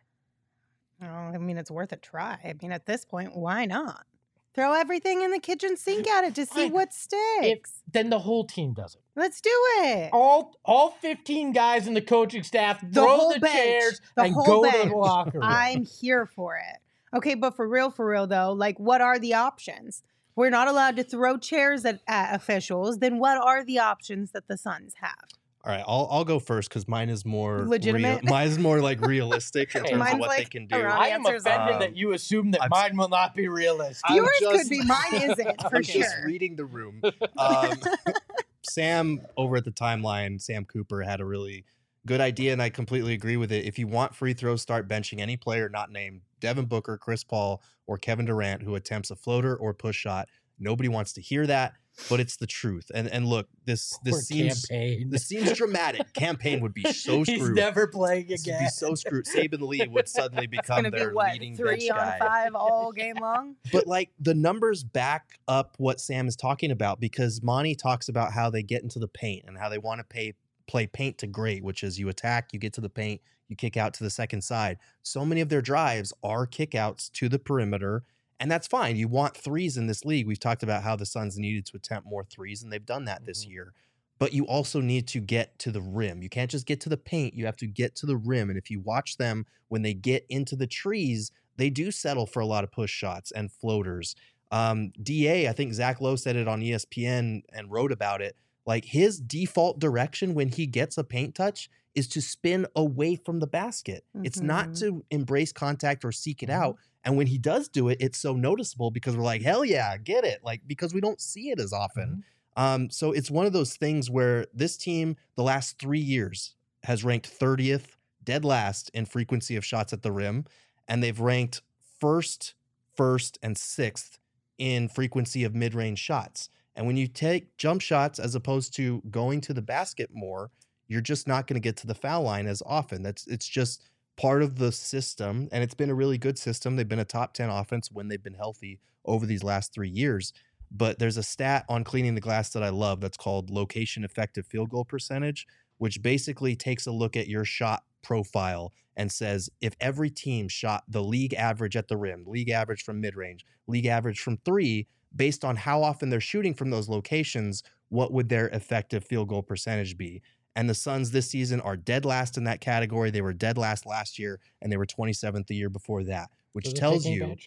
I mean, it's worth a try. I mean, at this point, why not? Throw everything in the kitchen sink at it to see what sticks. Then the whole team does it. Let's do it. All 15 guys in the coaching staff throw the chairs and go to the locker room. I'm here for it. Okay, but for real though, like, what are the options? We're not allowed to throw chairs at officials. Then what are the options that the Suns have? All right, I'll go first because mine is more legitimate. Mine is more like realistic in terms of what they can do. I am offended that you assume that mine will not be realistic. Yours could be, mine isn't for sure. Just reading the room. Sam over at the timeline, Sam Cooper had a really good idea, and I completely agree with it. If you want free throws, start benching any player not named Devin Booker, Chris Paul, or Kevin Durant who attempts a floater or push shot. Nobody wants to hear that, but it's the truth. And look, this seems dramatic. Campaign would be so screwed. He's never playing again. Would be so screwed. Saban Lee would suddenly become their leading bench 3 on 5 all game long? But like the numbers back up what Sam is talking about, because Monty talks about how they get into the paint and how they want to play paint to great, which is you attack, you get to the paint, you kick out to the second side. So many of their drives are kickouts to the perimeter, and that's fine. You want threes in this league. We've talked about how the Suns needed to attempt more threes, and they've done that this year. But you also need to get to the rim. You can't just get to the paint. You have to get to the rim. And if you watch them, when they get into the trees, they do settle for a lot of push shots and floaters. DA, I think Zach Lowe said it on ESPN and wrote about it. Like, his default direction when he gets a paint touch is to spin away from the basket. It's not to embrace contact or seek it out. And when he does do it, it's so noticeable because we're like, hell yeah, get it. Like, because we don't see it as often. So it's one of those things where this team, the last 3 years, has ranked 30th, dead last in frequency of shots at the rim. And they've ranked first, and sixth in frequency of mid-range shots. And when you take jump shots as opposed to going to the basket more, you're just not going to get to the foul line as often. It's just part of the system, and it's been a really good system. They've been a top 10 offense when they've been healthy over these last 3 years. But there's a stat on Cleaning the Glass that I love that's called location effective field goal percentage, which basically takes a look at your shot profile and says if every team shot the league average at the rim, league average from mid-range, league average from three, based on how often they're shooting from those locations, what would their effective field goal percentage be? And the Suns this season are dead last in that category. They were dead last last year, and they were 27th the year before that, which tells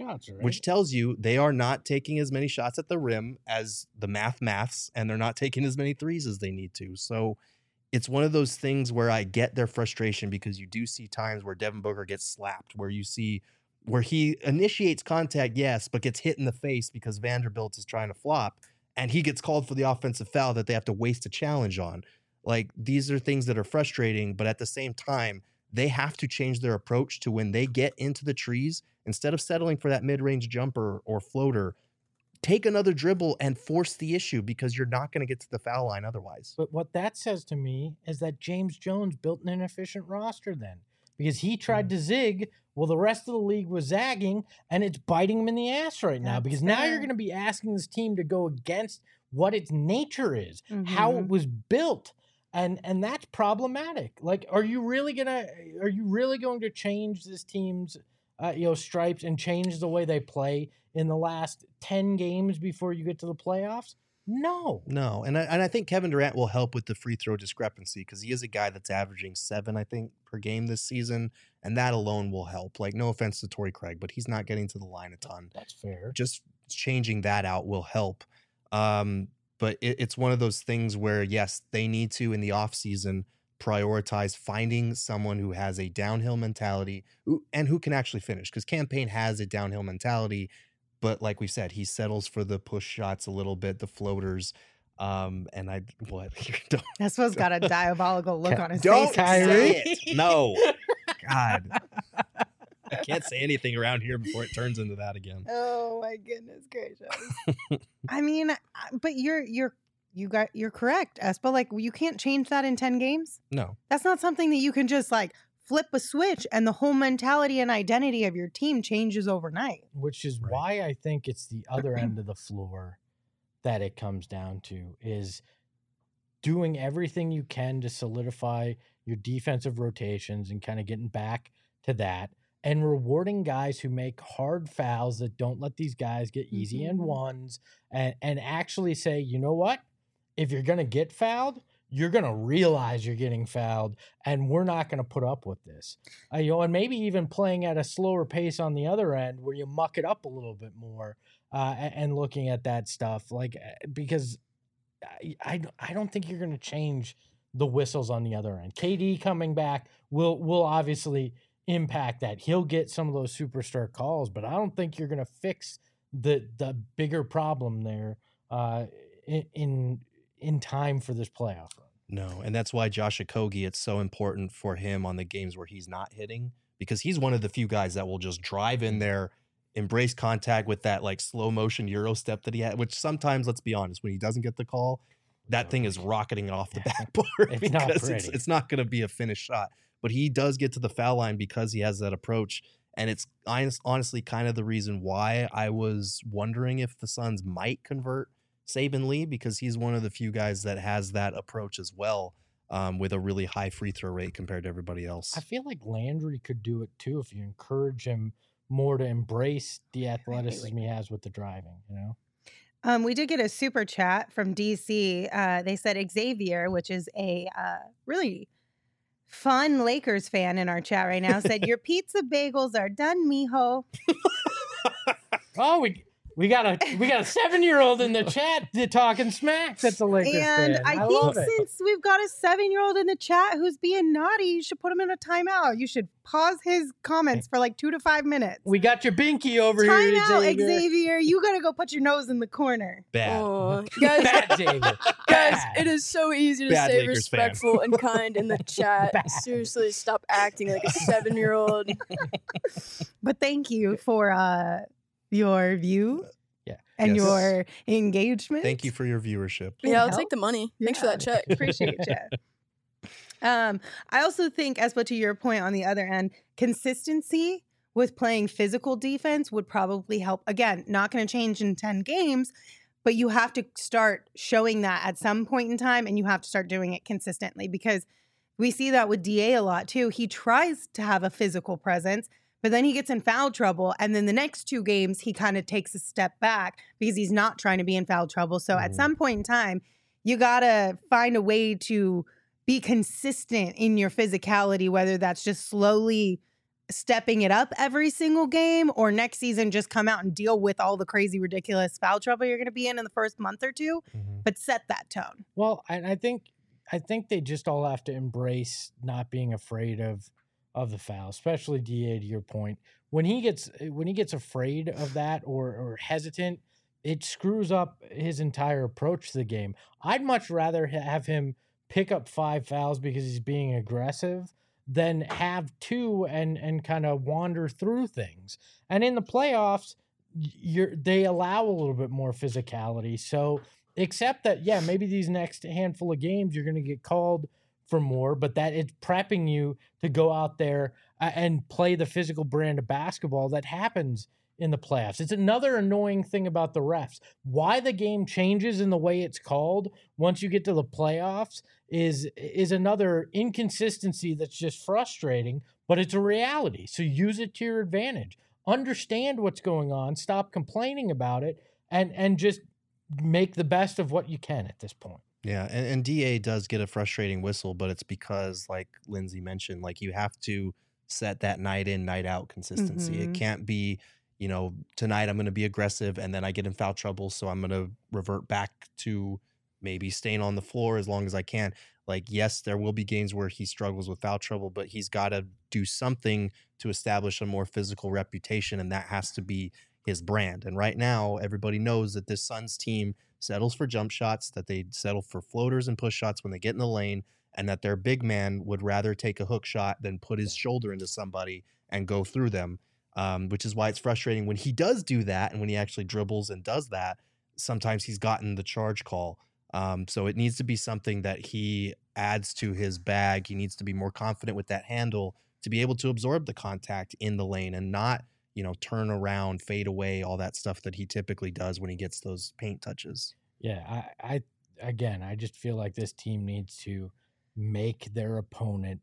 you they are not taking as many shots at the rim as the maths, and they're not taking as many threes as they need to. So it's one of those things where I get their frustration because you do see times where Devin Booker gets slapped, where you see where he initiates contact, yes, but gets hit in the face because Vanderbilt is trying to flop, and he gets called for the offensive foul that they have to waste a challenge on. Like, these are things that are frustrating, but at the same time, they have to change their approach to when they get into the trees, instead of settling for that mid-range jumper or floater, take another dribble and force the issue because you're not going to get to the foul line otherwise. But what that says to me is that James Jones built an inefficient roster then, because he tried to zig. Well, the rest of the league was zagging, and it's biting him in the ass right now, because now you're going to be asking this team to go against what its nature is, how it was built. And that's problematic. Like, are you really going to change this team's stripes and change the way they play in the last 10 games before you get to the playoffs? No. And I think Kevin Durant will help with the free throw discrepancy because he is a guy that's averaging 7, I think, per game this season, and that alone will help. Like, no offense to Torrey Craig, but he's not getting to the line a ton. That's fair. Just changing that out will help. But it's one of those things where, yes, they need to, in the offseason, prioritize finding someone who has a downhill mentality and who can actually finish. Because Cam Payne has a downhill mentality, but like we said, he settles for the push shots a little bit, the floaters. That's what's got a diabolical look on his don't face. say it. No. God. I can't say anything around here before it turns into that again. Oh my goodness gracious! I mean, but you're correct, Espa. Like, you can't change that in 10 games. No, that's not something that you can just like flip a switch and the whole mentality and identity of your team changes overnight. Which is why I think it's the other end of the floor that it comes down to, is doing everything you can to solidify your defensive rotations and kind of getting back to that. And rewarding guys who make hard fouls that don't let these guys get easy and ones, and actually say, you know what? If you're going to get fouled, you're going to realize you're getting fouled, and we're not going to put up with this. And maybe even playing at a slower pace on the other end where you muck it up a little bit more, and looking at that stuff. Like, because I don't think you're going to change the whistles on the other end. KD coming back will obviously impact that. He'll get some of those superstar calls, but I don't think you're going to fix the bigger problem there in time for this playoff run. No, and that's why Josh Okogie, it's so important for him on the games where he's not hitting, because he's one of the few guys that will just drive in there, embrace contact with that like slow motion Euro step that he had, which sometimes, let's be honest, when he doesn't get the call, that thing is rocketing off the backboard because it's not going to be a finished shot. But he does get to the foul line because he has that approach. And it's honestly kind of the reason why I was wondering if the Suns might convert Saben Lee, because he's one of the few guys that has that approach as well. with a really high free throw rate compared to everybody else. I feel like Landry could do it too if you encourage him more to embrace the athleticism he has with the driving, you know? We did get a super chat from DC. They said Xavier, which is a really fun Lakers fan in our chat right now, said, "Your pizza bagels are done, mijo." Oh, we got a 7-year-old in the chat talking smack. That's a Lakers And fan. I love think it. since we've got a 7-year-old in the chat who's being naughty, you should put him in a timeout. You should pause his comments for like 2 to 5 minutes. We got your binky over Time here, out, Xavier. Xavier. You gotta go put your nose in the corner. Bad. Oh, guys, Bad, Xavier. guys, Bad. it is so easy to Bad stay Lakers fan. respectful and kind in the chat. Seriously, stop acting like a 7-year-old. But thank you for your view and Yes. your engagement. Thank you for your viewership. Yeah, I'll help. take the money. Thanks for that check. Appreciate you. I also think, Espo, to your point on the other end, consistency with playing physical defense would probably help. Again, not going to change in 10 games, but you have to start showing that at some point in time, and you have to start doing it consistently, because we see that with DA a lot too. He tries to have a physical presence, but then he gets in foul trouble. And then the next 2 games, he kind of takes a step back because he's not trying to be in foul trouble. So at some point in time, you got to find a way to be consistent in your physicality, whether that's just slowly stepping it up every single game, or next season just come out and deal with all the crazy, ridiculous foul trouble you're going to be in the first month or 2, but set that tone. Well, and I think they just all have to embrace not being afraid of the foul, especially DA, to your point. When he gets afraid of that or hesitant, it screws up his entire approach to the game. I'd much rather have him pick up 5 fouls because he's being aggressive than have 2 and kind of wander through things. And in the playoffs, they allow a little bit more physicality. So except that, yeah, maybe these next handful of games you're going to get called for more, but that it's prepping you to go out there and play the physical brand of basketball that happens in the playoffs. It's another annoying thing about the refs. Why the game changes in the way it's called once you get to the playoffs is another inconsistency that's just frustrating, but it's a reality. So use it to your advantage. Understand what's going on, stop complaining about it, and just make the best of what you can at this point. Yeah, and DA does get a frustrating whistle, but it's because, like Lindsay mentioned, like you have to set that night in, night out consistency. It can't be, tonight I'm going to be aggressive and then I get in foul trouble, so I'm going to revert back to maybe staying on the floor as long as I can. Like, yes, there will be games where he struggles with foul trouble, but he's got to do something to establish a more physical reputation, and that has to be his brand. And right now, everybody knows that this Suns team settles for jump shots, that they settle for floaters and push shots when they get in the lane, and that their big man would rather take a hook shot than put his shoulder into somebody and go through them, which is why it's frustrating when he does do that, and when he actually dribbles and does that, sometimes he's gotten the charge call. So it needs to be something that he adds to his bag. He needs to be more confident with that handle to be able to absorb the contact in the lane and not, turn around, fade away, all that stuff that he typically does when he gets those paint touches. Yeah, I just feel like this team needs to make their opponent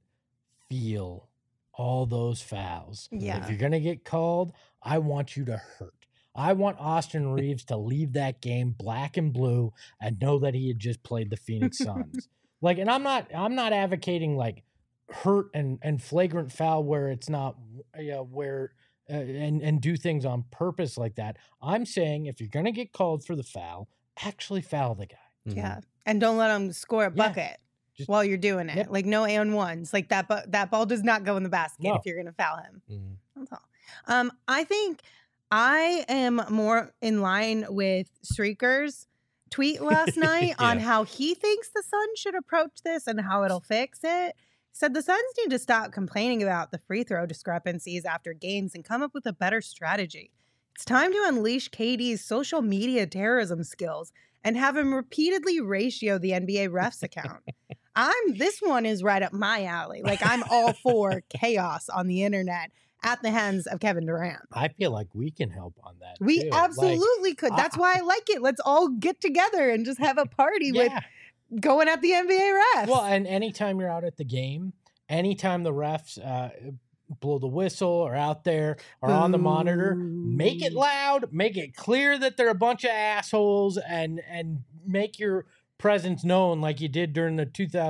feel all those fouls. Yeah. If you're going to get called, I want you to hurt. I want Austin Reeves to leave that game black and blue and know that he had just played the Phoenix Suns. And I'm not advocating like hurt and flagrant foul where it's not where and do things on purpose like that. I'm saying if you're going to get called for the foul, actually foul the guy. Yeah. And don't let him score a bucket while you're doing it. Yep. Like no and ones. Like that ball does not go in the basket if you're going to foul him. That's all. I think I am more in line with Streaker's tweet last night on how he thinks the Suns should approach this and how it'll fix it. Said the Suns need to stop complaining about the free throw discrepancies after games and come up with a better strategy. It's time to unleash KD's social media terrorism skills and have him repeatedly ratio the NBA refs account. This one is right up my alley. Like, I'm all for chaos on the internet at the hands of Kevin Durant. I feel like we can help on that. We too. absolutely could. That's why I like it. Let's all get together and just have a party with going at the NBA refs. Well, and anytime you're out at the game, anytime the refs blow the whistle or out there or on the monitor, make it loud, make it clear that they're a bunch of assholes, and make your presence known like you did during the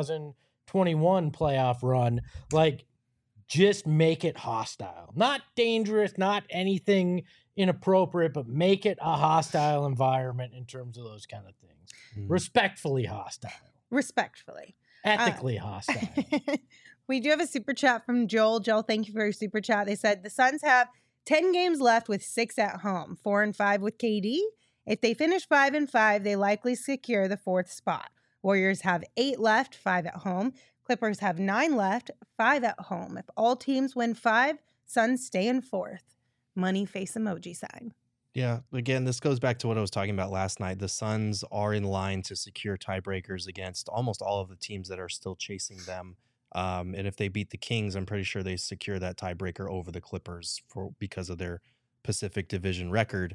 2021 playoff run. Like, just make it hostile, not dangerous, not anything inappropriate, but make it a hostile environment in terms of those kind of things. Respectfully hostile. Respectfully. Ethically hostile. We do have a super chat from Joel. Joel, thank you for your super chat. They said the Suns have 10 games left with 6 at home, 4-5 with KD. If they finish 5-5, they likely secure the 4th spot. Warriors have 8 left, 5 at home. Clippers have 9 left, 5 at home. If all teams win 5, Suns stay in 4th. Money face emoji sign. Yeah, again, this goes back to what I was talking about last night. The Suns are in line to secure tiebreakers against almost all of the teams that are still chasing them. And if they beat the Kings, I'm pretty sure they secure that tiebreaker over the Clippers because of their Pacific Division record,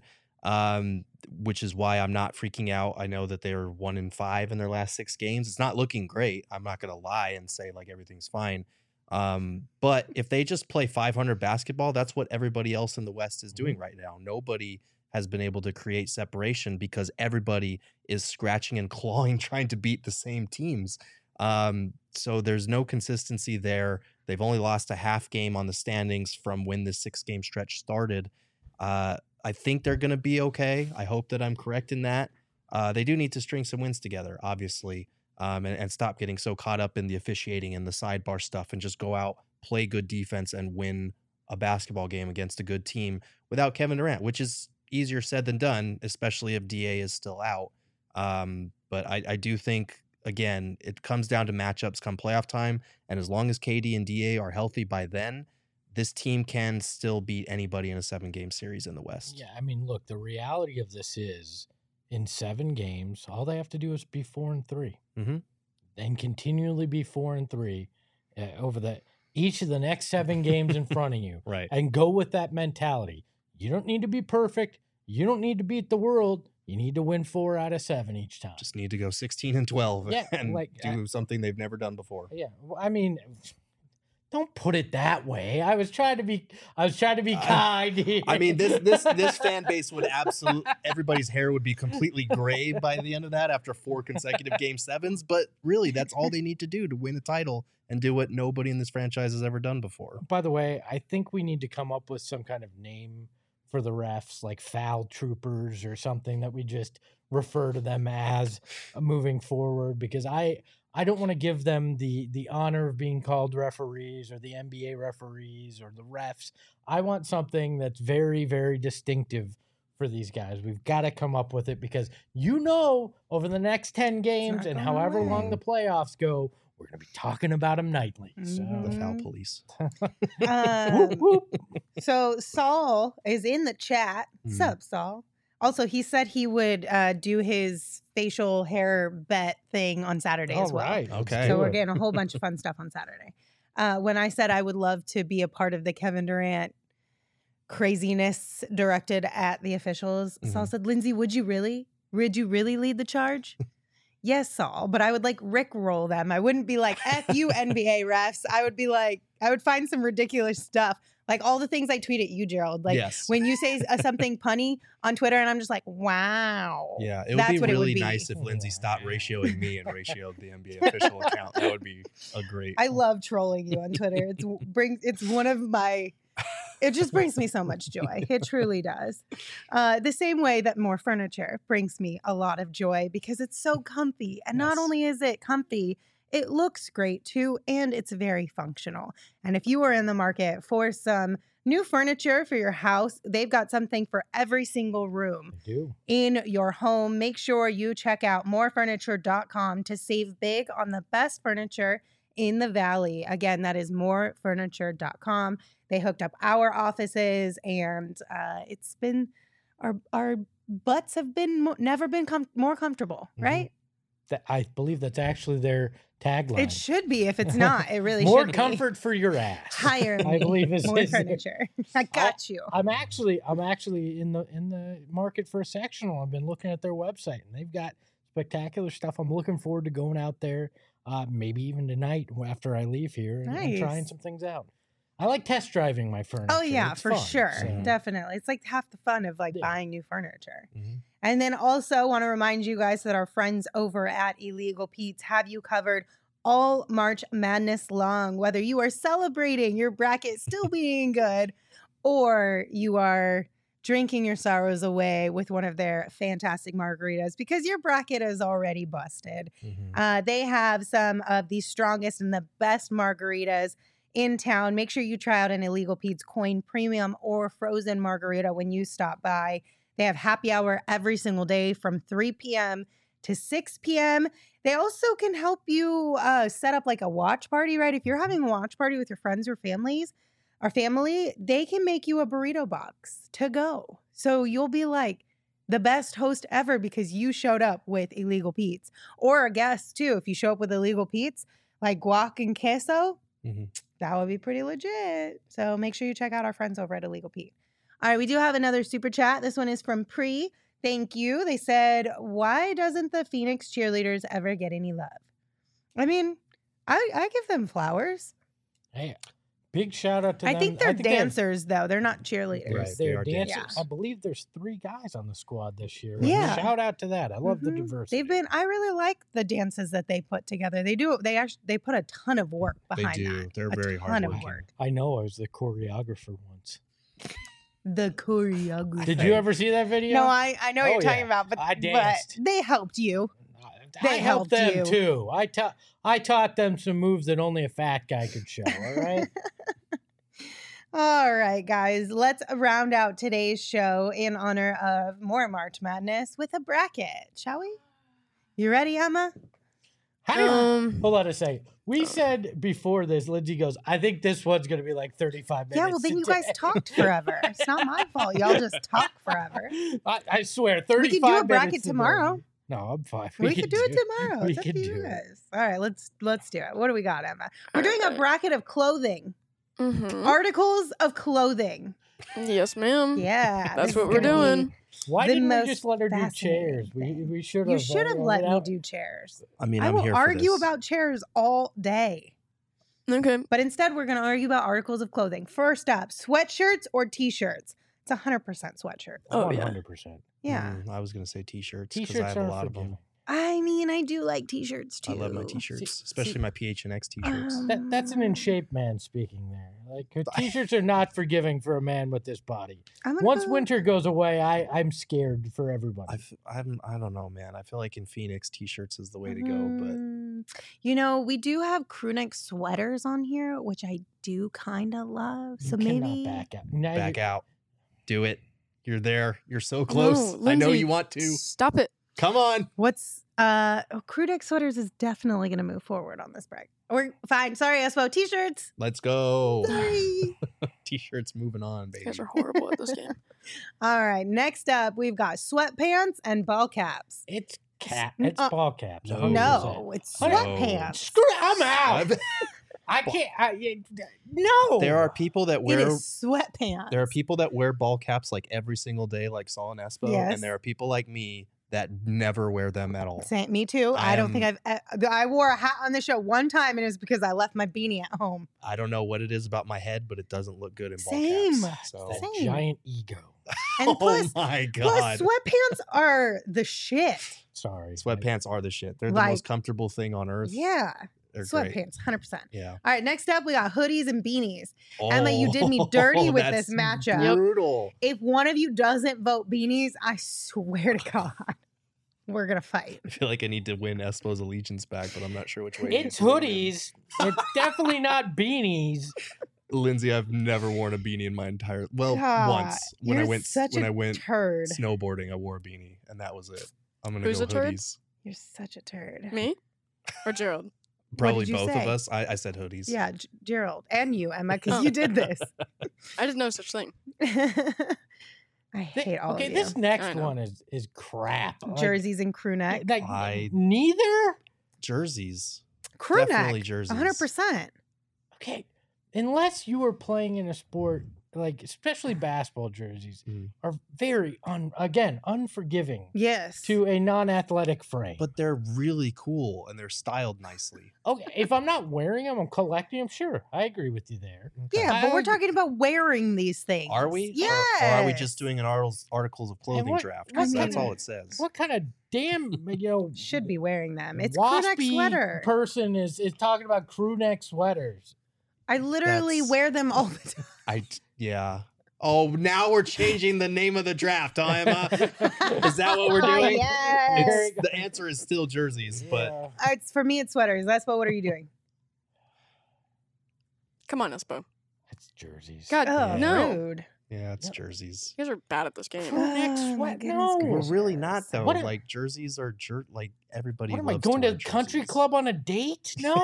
which is why I'm not freaking out. I know that they're 1-5 in their last 6 games. It's not looking great. I'm not going to lie and say like everything's fine. But if they just play 500 basketball, that's what everybody else in the West is doing right now. Nobody has been able to create separation because everybody is scratching and clawing trying to beat the same teams. So there's no consistency there. They've only lost a half game on the standings from when this 6-game stretch started. I think they're going to be okay. I hope that I'm correct in that. They do need to string some wins together, obviously, and stop getting so caught up in the officiating and the sidebar stuff and just go out, play good defense, and win a basketball game against a good team without Kevin Durant, which is easier said than done, especially if DA is still out. But I do think, again, it comes down to matchups come playoff time. And as long as KD and DA are healthy by then, this team can still beat anybody in a 7-game series in the West. Yeah, I mean, look, the reality of this is in 7 games, all they have to do is be 4-3 and continually be 4-3 over each of the next 7 games in front of you. Right. And go with that mentality. You don't need to be perfect. You don't need to beat the world. You need to win 4 out of 7 each time. Just need to go 16-12 and like, do something they've never done before. Yeah, well, I mean, don't put it that way. I was trying to be kind here. I mean, this fan base would everybody's hair would be completely gray by the end of that after 4 consecutive Game 7s. But really, that's all they need to do to win a title and do what nobody in this franchise has ever done before. By the way, I think we need to come up with some kind of name for the refs, like foul troopers or something that we just refer to them as moving forward, because I don't want to give them the honor of being called referees or the NBA referees or the refs. I want something that's very, very distinctive for these guys. We've got to come up with it because, over the next 10 games and however long the playoffs go, we're going to be talking about them nightly. So. The foul police. Whoop, whoop. So Saul is in the chat. Sup, Saul? Also, he said he would do his facial hair bet thing on Saturday as well. Right. Okay. So we're getting a whole bunch of fun stuff on Saturday. When I said I would love to be a part of the Kevin Durant craziness directed at the officials, Saul said, Lindsay, would you really? Would you really lead the charge? Yes, Saul, but I would like Rickroll them. I wouldn't be like, F you NBA refs. I would be like, I would find some ridiculous stuff. Like all the things I tweet at you, Gerald. Like when you say something punny on Twitter and I'm just like, wow. Yeah, it would be really nice if Lindsay stopped ratioing me and ratioed the NBA official account. That would be a great. I love trolling you on Twitter. It's one of my... It just brings me so much joy. It truly does. The same way that more furniture brings me a lot of joy because it's so comfy. And not only is it comfy, it looks great too, and it's very functional. And if you are in the market for some new furniture for your house, they've got something for every single room in your home. Make sure you check out morefurniture.com to save big on the best furniture in the Valley. Again, that is morefurniture.com. They hooked up our offices, and it's been our butts have been never been more comfortable, right? I believe that's actually their tagline. It should be. If it's not, it really more should be. More comfort for your ass. Hire me. I believe is more furniture. I got you. I'm actually in the market for a sectional. I've been looking at their website, and they've got spectacular stuff. I'm looking forward to going out there, maybe even tonight after I leave here and trying Nice. some things out. I like test driving my furniture. Oh yeah, It's for fun, sure. so- Definitely. It's like half the fun of like Yeah. buying new furniture. Mhm. And then also want to remind you guys that our friends over at Illegal Pete's have you covered all March Madness long, whether you are celebrating your bracket still being good or you are drinking your sorrows away with one of their fantastic margaritas because your bracket is already busted. Mhm. They have some of the strongest and the best margaritas in town. Make sure you try out an Illegal Pete's Coin Premium or Frozen Margarita when you stop by. They have happy hour every single day from 3 p.m. to 6 p.m. They also can help you set up like a watch party, right? If you're having a watch party with your friends or family, they can make you a burrito box to go. So you'll be like the best host ever because you showed up with Illegal Pete's. Or a guest too. If you show up with Illegal Pete's, like guac and queso, Mhm. that would be pretty legit. So make sure you check out our friends over at Illegal Pete. All right, we do have another super chat. This one is from Pre. Thank you. They said, why doesn't the Phoenix cheerleaders ever get any love? I mean, I give them flowers. Hey, big shout out to them. I think they're they have- dancers, though. They're not cheerleaders. Right. They They're are dancers. dancers. I believe there's 3 guys on the squad this year. Yeah. Shout out to that. I love the Mhm. diversity. I really like the dances that they put together. They put a ton of work They behind do. that. They're A very ton of hardworking. work. I know. I was the choreographer once. The choreography. Did you ever see that video? No, I know what Oh, you're talking yeah. about, but, I but danced. they helped you. I They helped helped them you. too. I taught them some moves that only a fat guy could show. All right. All right, guys, let's round out today's show in honor of more March Madness with a bracket, shall we? You ready, Emma? Hold on a second. We said before this, Lindsay goes, I think this one's going to be like 35 minutes. Yeah, well, then you guys today." talked forever. It's not my fault. Y'all just talk forever. I swear, 35 We could do a bracket minutes today. tomorrow. No, I'm fine. We could do it tomorrow. We It's up could to do you it. guys. All right, let's do it. What do we got, Emma? We're doing a bracket of clothing. Mm-hmm. Articles of clothing. Yes, ma'am. Yeah. That's this what is we're gonna be doing. Why the didn't we most just let her do fascinating chairs? thing. We should have. You should have let me do chairs. I mean, I I'm will here for argue this. about chairs all day. Okay. But instead, we're going to argue about articles of clothing. First up, sweatshirts or t-shirts? It's 100% sweatshirt. Oh, yeah. 100%. Yeah. I was gonna say t-shirts because I T-shirts have a are lot of them. forgiving. I mean, I do like t-shirts too. I love my t-shirts, See- especially my PHNX t-shirts. That's an in shape man speaking there. Like her t-shirts are not forgiving for a man with this body. I'm gonna Once go- winter goes away, I'm scared for everybody. I don't know, man. I feel like in Phoenix, t-shirts is the way to go. But You know, we do have crew neck sweaters on here, which I do kind of love. So You cannot maybe back out. Now back you're- out, do it. You're there. You're so close. No, I know Lindsay, you want to. Stop it. Come on. what's crew neck sweaters is definitely going to move forward on this break. We're fine. Sorry, Espo. T-shirts. Let's go. Sorry. T-shirts moving on, You baby. guys are horrible at this game. All right. Next up, we've got sweatpants and ball caps. It's N- ball caps. no. 100%. No, it's No. sweatpants. Screw it, I'm out. I can't. No. There are people that It wear. is sweatpants. There are people that wear ball caps like every single day, like Saul and Espo, Yes. and there are people like me that never wear them at all. Same, me too. I don't think I wore a hat on the show one time, and it was because I left my beanie at home. I don't know what it is about my head, but it doesn't look good in ball Same. caps. So. That Same. giant ego. And Oh plus, my plus, god! sweatpants are the shit. Sorry. Sweatpants are the shit. They're the Like- most comfortable thing on earth. Yeah, They're great. sweatpants, 100%. Yeah. All right, next up, we got hoodies and beanies. Emma, you did me dirty with this that's matchup. Brutal. If one of you doesn't vote beanies, I swear to God, we're gonna fight. I feel like I need to win Espo's allegiance back, but I'm not sure which way. It's hoodies. It's definitely not beanies. Lindsay, I've never worn a beanie in my entire once when I you're went such a turd. snowboarding. I wore a beanie, and that was it. I'm gonna Who's go a turd? hoodies. You're such a turd. Me or Gerald? Probably did you both say? of us. I said hoodies. Yeah, Gerald and you, Emma, because Oh. you did this. I didn't know such thing. I hate all Okay, of you. this next I know. one is crap. Like, Jerseys and crew neck. like, I- neither. Jerseys. Crew Definitely neck. jerseys. 100%. Okay, unless you were playing in a sport like especially basketball jerseys, Mm. are very unforgiving Yes. to a non-athletic frame. But they're really cool and they're styled nicely. Okay, if I'm not wearing them, I'm collecting them. Sure, I agree with you there. Yeah, I but we're would- talking about wearing these things. Are we? Yeah. Or are we just doing an articles of clothing what- draft? what 'Cause that's kind all of- it says. What kind of damn should be wearing them? It's crew neck waspy sweater. person is talking about crew neck sweaters? I literally That's- wear them all the time. Yeah. Oh, now we're changing the name of the draft, huh, Emma? Is that what we're doing? Yes. The answer is still jerseys, but Yeah. It's for me. It's sweaters. That's what are you doing? Come on, Espo. It's jerseys. God, Oh, no. rude. yeah, it's Yep. jerseys. You guys are bad at this game. Crew neck Oh, my sweat. goodness No, We're gracious. really not though. What am- Like jerseys are like everybody. What am I loves going to wear the country jerseys. club on a date? No.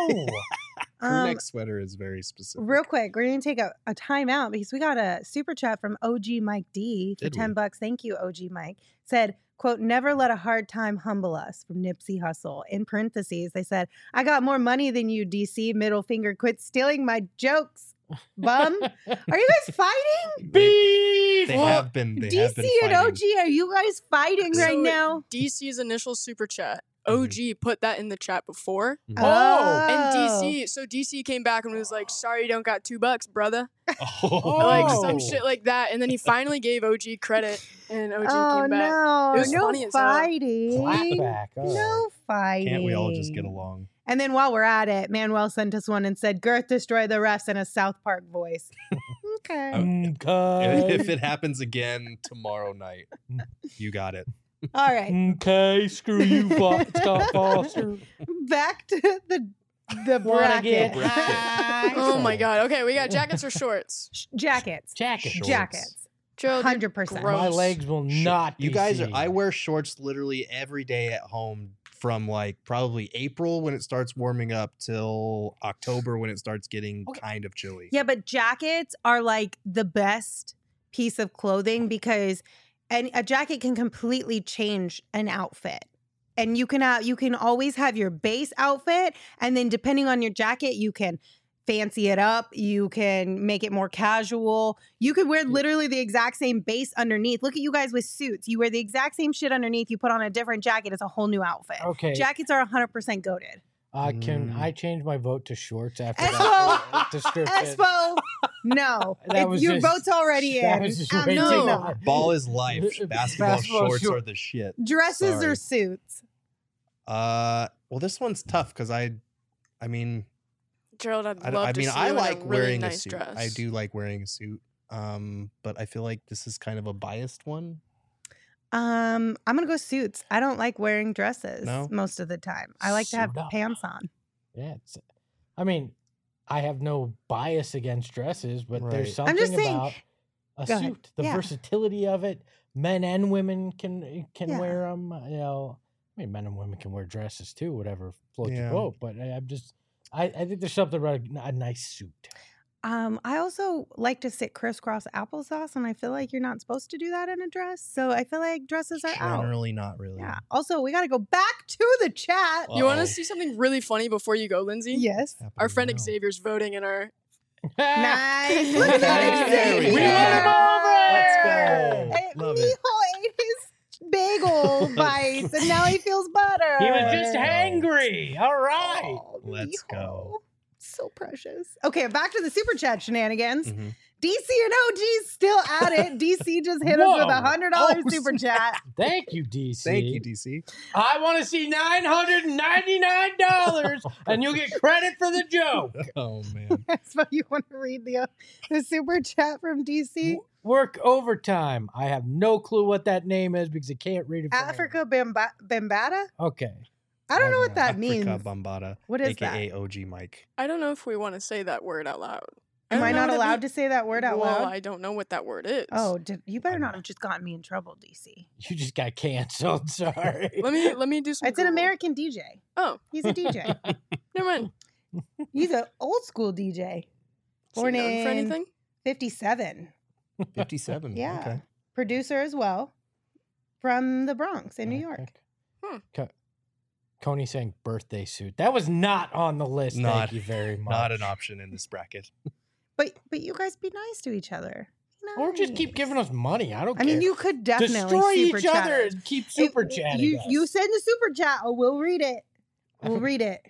Crew neck sweater is very specific. Real quick, we're gonna take a time out because we got a super chat from OG Mike D for Did we? $10. Thank you, OG Mike. Said, quote, never let a hard time humble us from Nipsey Hussle. In parentheses, they said, I got more money than you, DC. Middle finger, quit stealing my jokes. Bum. Are you guys fighting? Beef. They have been. They have DC been and fighting. OG, are you guys fighting So- right now? DC's initial super chat. Mm-hmm. OG put that in the chat before. Oh. And DC came back and was like, sorry, you don't got $2, brother. Oh. Like some Oh. shit like that. And then he finally gave OG credit and OG Oh came back. no! It was No funny as hell. fighting. Clapback. Oh. No fighting. Can't we all just get along? And then while we're at it, Manuel sent us one and said, Girth destroy the refs in a South Park voice. Okay. Okay. If it happens again tomorrow night, you got it. All right. Okay, screw you, Scott Foster. Back to the Wanna bracket. get high? Oh my god. Okay, we got jackets or shorts. Jackets. Jacket. Shorts. Jackets. Gerald, you're 100%. gross. My legs will not be You guys are. seen. I wear shorts literally every day at home from like probably April when it starts warming up till October when it starts getting kind of chilly. Yeah, but jackets are like the best piece of clothing because a jacket can completely change an outfit. And you can always have your base outfit, and then depending on your jacket, you can fancy it up. You can make it more casual. You could wear literally the exact same base underneath. Look at you guys with suits. You wear the exact same shit underneath. You put on a different jacket. It's a whole new outfit. Okay. Jackets are 100% goated. Can I change my vote to shorts after Espo! that description? Expo. No. That was Your just- vote's already that in. was just I'm way too not. much. Ball is life. Basketball, Basketball shorts short- are the shit. Dresses Sorry. or suits? Well, this one's tough because I mean, Gerald, I'd I, love I to mean, see I you in like a really wearing nice a suit. dress. I do like wearing a suit. But I feel like this is kind of a biased one. I'm gonna go suits. I don't like wearing dresses No? most of the time. I like to have Suit up. pants on. Yeah. I mean, I have no bias against dresses, but Right. there's I'm something just saying- about a Go ahead. suit, the Yeah. versatility of it. Men and women can Yeah. wear them. You know, I mean, men and women can wear dresses too, whatever floats your Yeah. boat. But I think there's something about a nice suit. I also like to sit crisscross applesauce, and I feel like you're not supposed to do that in a dress. So I feel like dresses are out. Generally, not really. Yeah. Also, we got to go back to the chat. You want Uh-oh. to see something really funny before you go, Lindsay? Yes. Happening Our friend now. Xavier's voting in our. Nice. Look at that. There we Xavier. go. Let's go. Hey, Love it. Mijo ate his bagel bites, and now he feels better. He was just hangry. All right. Oh, Let's Mijo. go. So precious. Okay, back to the super chat shenanigans. Mhm. DC and OG still at it. DC just hit us with Whoa. $100 Oh, super chat. Thank you, DC. Thank you, DC. I want to see $999, and you'll get credit for the joke. Oh man. So you want to read the super chat from DC? Work overtime. I have no clue what that name is because I can't read it. from here. Africa Bambata? Okay. I don't know what that Africa means. Bambata. What is AKA OG Mike. I don't know if we want to say that word out loud. Am I not allowed to say that word out well, loud? I don't know what that word is. Oh, you better not have just gotten me in trouble, DC. You just got canceled. Sorry. Let me do some. It's an Google. American DJ. Oh, He's a DJ. never mind. He's an old school DJ. Is he Born known for in anything? 57. 57. Yeah. Okay. Producer as well. From the Bronx in New York. Coney saying birthday suit. That was not on the list. Not- Thank you very much. Not an option in this bracket. But you guys be nice to each other. Or just keep giving us money. I don't care. I mean, you could definitely destroy super each chat other us. and keep super chatting us. You send the super chat. Oh, we'll read it. We'll read it.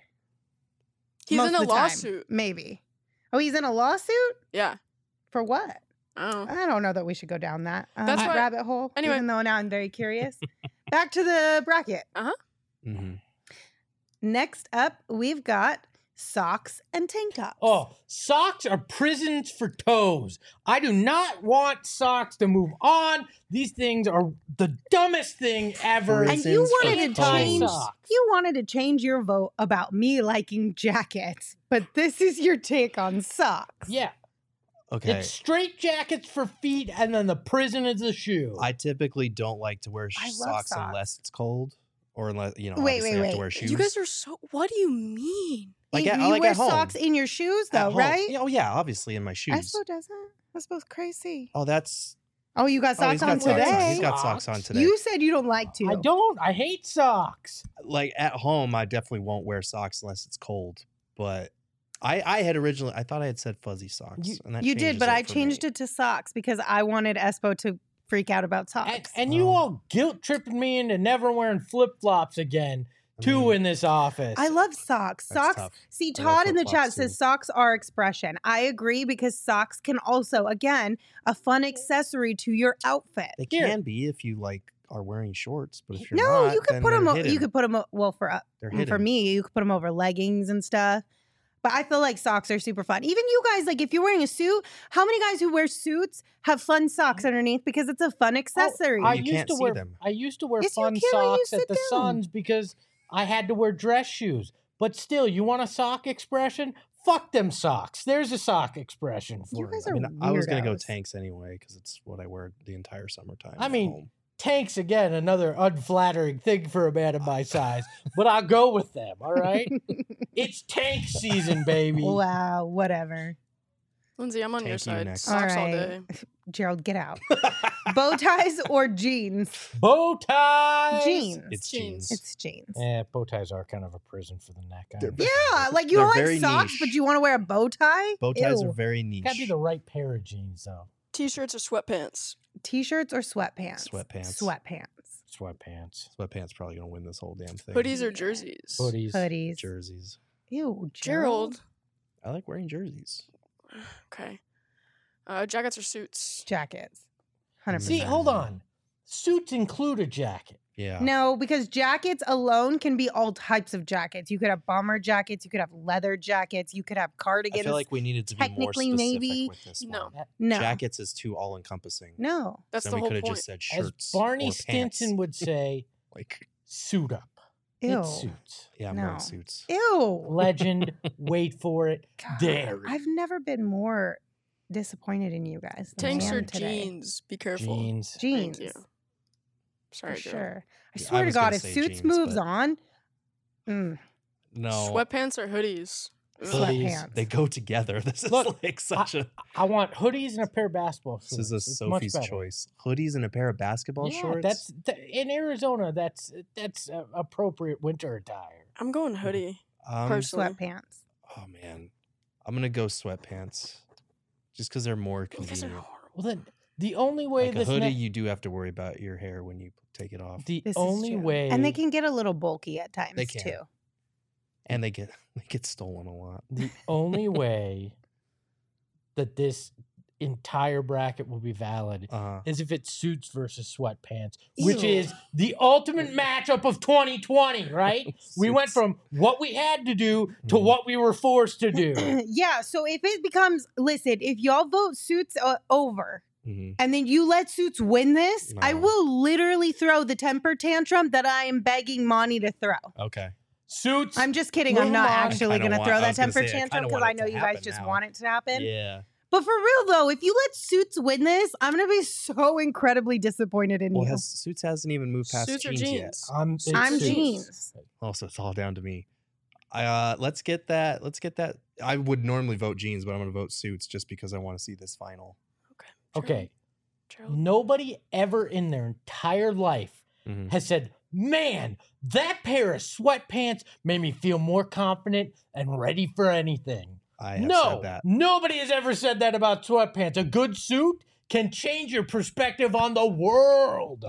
He's Most in of a the time, lawsuit. maybe. Oh, he's in a lawsuit? Yeah. For what? Oh. I don't know that we should go down that That's why- rabbit hole. Anyway. Even though now I'm very curious. Back to the bracket. Mm-hmm. Next up, we've got socks and tank tops. Oh, socks are prisons for toes. I do not want socks to move on. These things are the dumbest thing ever. And you wanted to change. Socks. You wanted to change your vote about me liking jackets, but this is your take on socks. Yeah. Okay. It's straight jackets for feet, and then the prison is the shoe. I typically don't like to wear I love socks socks. unless it's cold, or unless Wait, obviously I have wait. to wear shoes. You guys are so. What do you mean? like you at, you like wear at home. socks in your shoes, At though, home. right? Yeah, oh yeah, obviously in my shoes. Espo doesn't. Espo's crazy. Oh, that's. Oh, you got Oh, socks he's on got socks today. on. He's got socks on today. You said you don't like to. I don't. I hate socks. Like at home, I definitely won't wear socks unless it's cold. But I had originally, I thought I had said fuzzy socks. And that You did, changes but I for changed me. it to socks because I wanted Espo to freak out about socks. And you all guilt tripping me into never wearing flip flops again. Two in this office. I love socks. That's Socks. tough. See, I love Todd in the flip-flops chat says too. socks are expression. I agree because socks can also, again, a fun accessory to your outfit. They Here. can be if you like are wearing shorts, but if you're No, not, you could then put them. they're hidden. You could put them. Well, for They're for hidden. me, you could put them over leggings and stuff. But I feel like socks are super fun. Even you guys, like if you're wearing a suit, how many guys who wear suits have fun socks underneath because it's a fun accessory? I You used can't to see wear. them. I used to wear Yes, you fun can when you socks at sit the down. Suns because I had to wear dress shoes. But still, you want a sock expression? Fuck them socks. There's a sock expression for You you. guys I are mean, I was gonna go weirdos. tanks anyway because it's what I wear the entire summertime. I at mean, home. Tanks again, another unflattering thing for a man of my size, but I'll go with them. All right, it's tank season, baby. Wow, whatever. Lindsay, I'm on your Tank you side. next. Socks all All right. day. Gerald, get out. Bow ties or jeans? Bow ties. Jeans. it's jeans. jeans. It's jeans. Yeah, bow ties are kind of a prison for the neck. They're Yeah, like you They're don't like very socks, niche. but you want to wear a bow tie? Bow ties Ew. are very niche. Gotta be the right pair of jeans, though. T-shirts or sweatpants. T-shirts or sweatpants? Sweatpants. Sweatpants. Sweatpants, Sweatpants probably gonna win this whole damn thing. Hoodies or jerseys. hoodies. Hoodies. jerseys. Ew, Gerald. I like wearing jerseys. Okay. Jackets or suits. Jackets. 100%. See, hold on. Suits include a jacket. Yeah. No, because jackets alone can be all types of jackets. You could have bomber jackets, you could have leather jackets, you could have I cardigans. feel like we needed to be more technically, specific maybe. with this No. one. no. Jackets is too all encompassing. No. That's then the we whole could have point. just said As shirts. Barney or Stinson pants. would say, Like, suit up. Ew. It's suits. yeah, I'm No. wearing suits. Ew. Legend, wait for it, God, dairy. I've never been more disappointed in you guys. Than Tanks I or am today. jeans. Be careful. Jeans. Jeans. Thank you. Sorry, For Joe. sure. I Yeah, I swear to was God, gonna if say Suits jeans, moves but- on, No. Sweatpants or hoodies. Ugh. Hoodies. sweatpants. They go together. This is Look, like such a. I want hoodies and a pair of basketball shorts. This is a It's much Sophie's better. choice. Hoodies and a pair of basketball Yeah, shorts. in Arizona. That's appropriate winter attire. I'm going hoodie. personally. Sweatpants. Oh man, I'm gonna go sweatpants, just because they're more You guys are convenient. horrible. Well, then the only way Like a this hoodie, ne- you do have to worry about your hair when you take it off, the This is only true. way And they can get a little bulky at times They can. too. and they get stolen a lot. the only way that this entire bracket will be valid is if it's suits versus sweatpants, which Ew. is the ultimate matchup of 2020, right? We went Suits. from what we had to do to Mhm. what we were forced to do. Yeah, so if it becomes, listen, if y'all vote Suits over Mhm. and then you let Suits win this, I No. will literally throw the temper tantrum that I am begging Monty to throw. Okay. Suits. I'm just kidding. Move I'm not on. actually Kinda going to want- throw I that was gonna temper say, I tantrum kinda because want I it know to you guys happen just now. want it to happen. Yeah. But for real though, if you let Suits win this, I'm going to be so incredibly disappointed in Well, you. Suits hasn't even moved past Suits or jeans yet. jeans? I'm I'm Suits. jeans. Also, it's all down to me. Let's get that. I would normally vote jeans, but I'm going to vote suits just because I want to see this final. Okay. Gerald. Nobody ever in their entire life Mhm. has said, man, that pair of sweatpants made me feel more confident and ready for anything. I have No, said that. nobody has ever said that about sweatpants. A good suit can change your perspective on the world.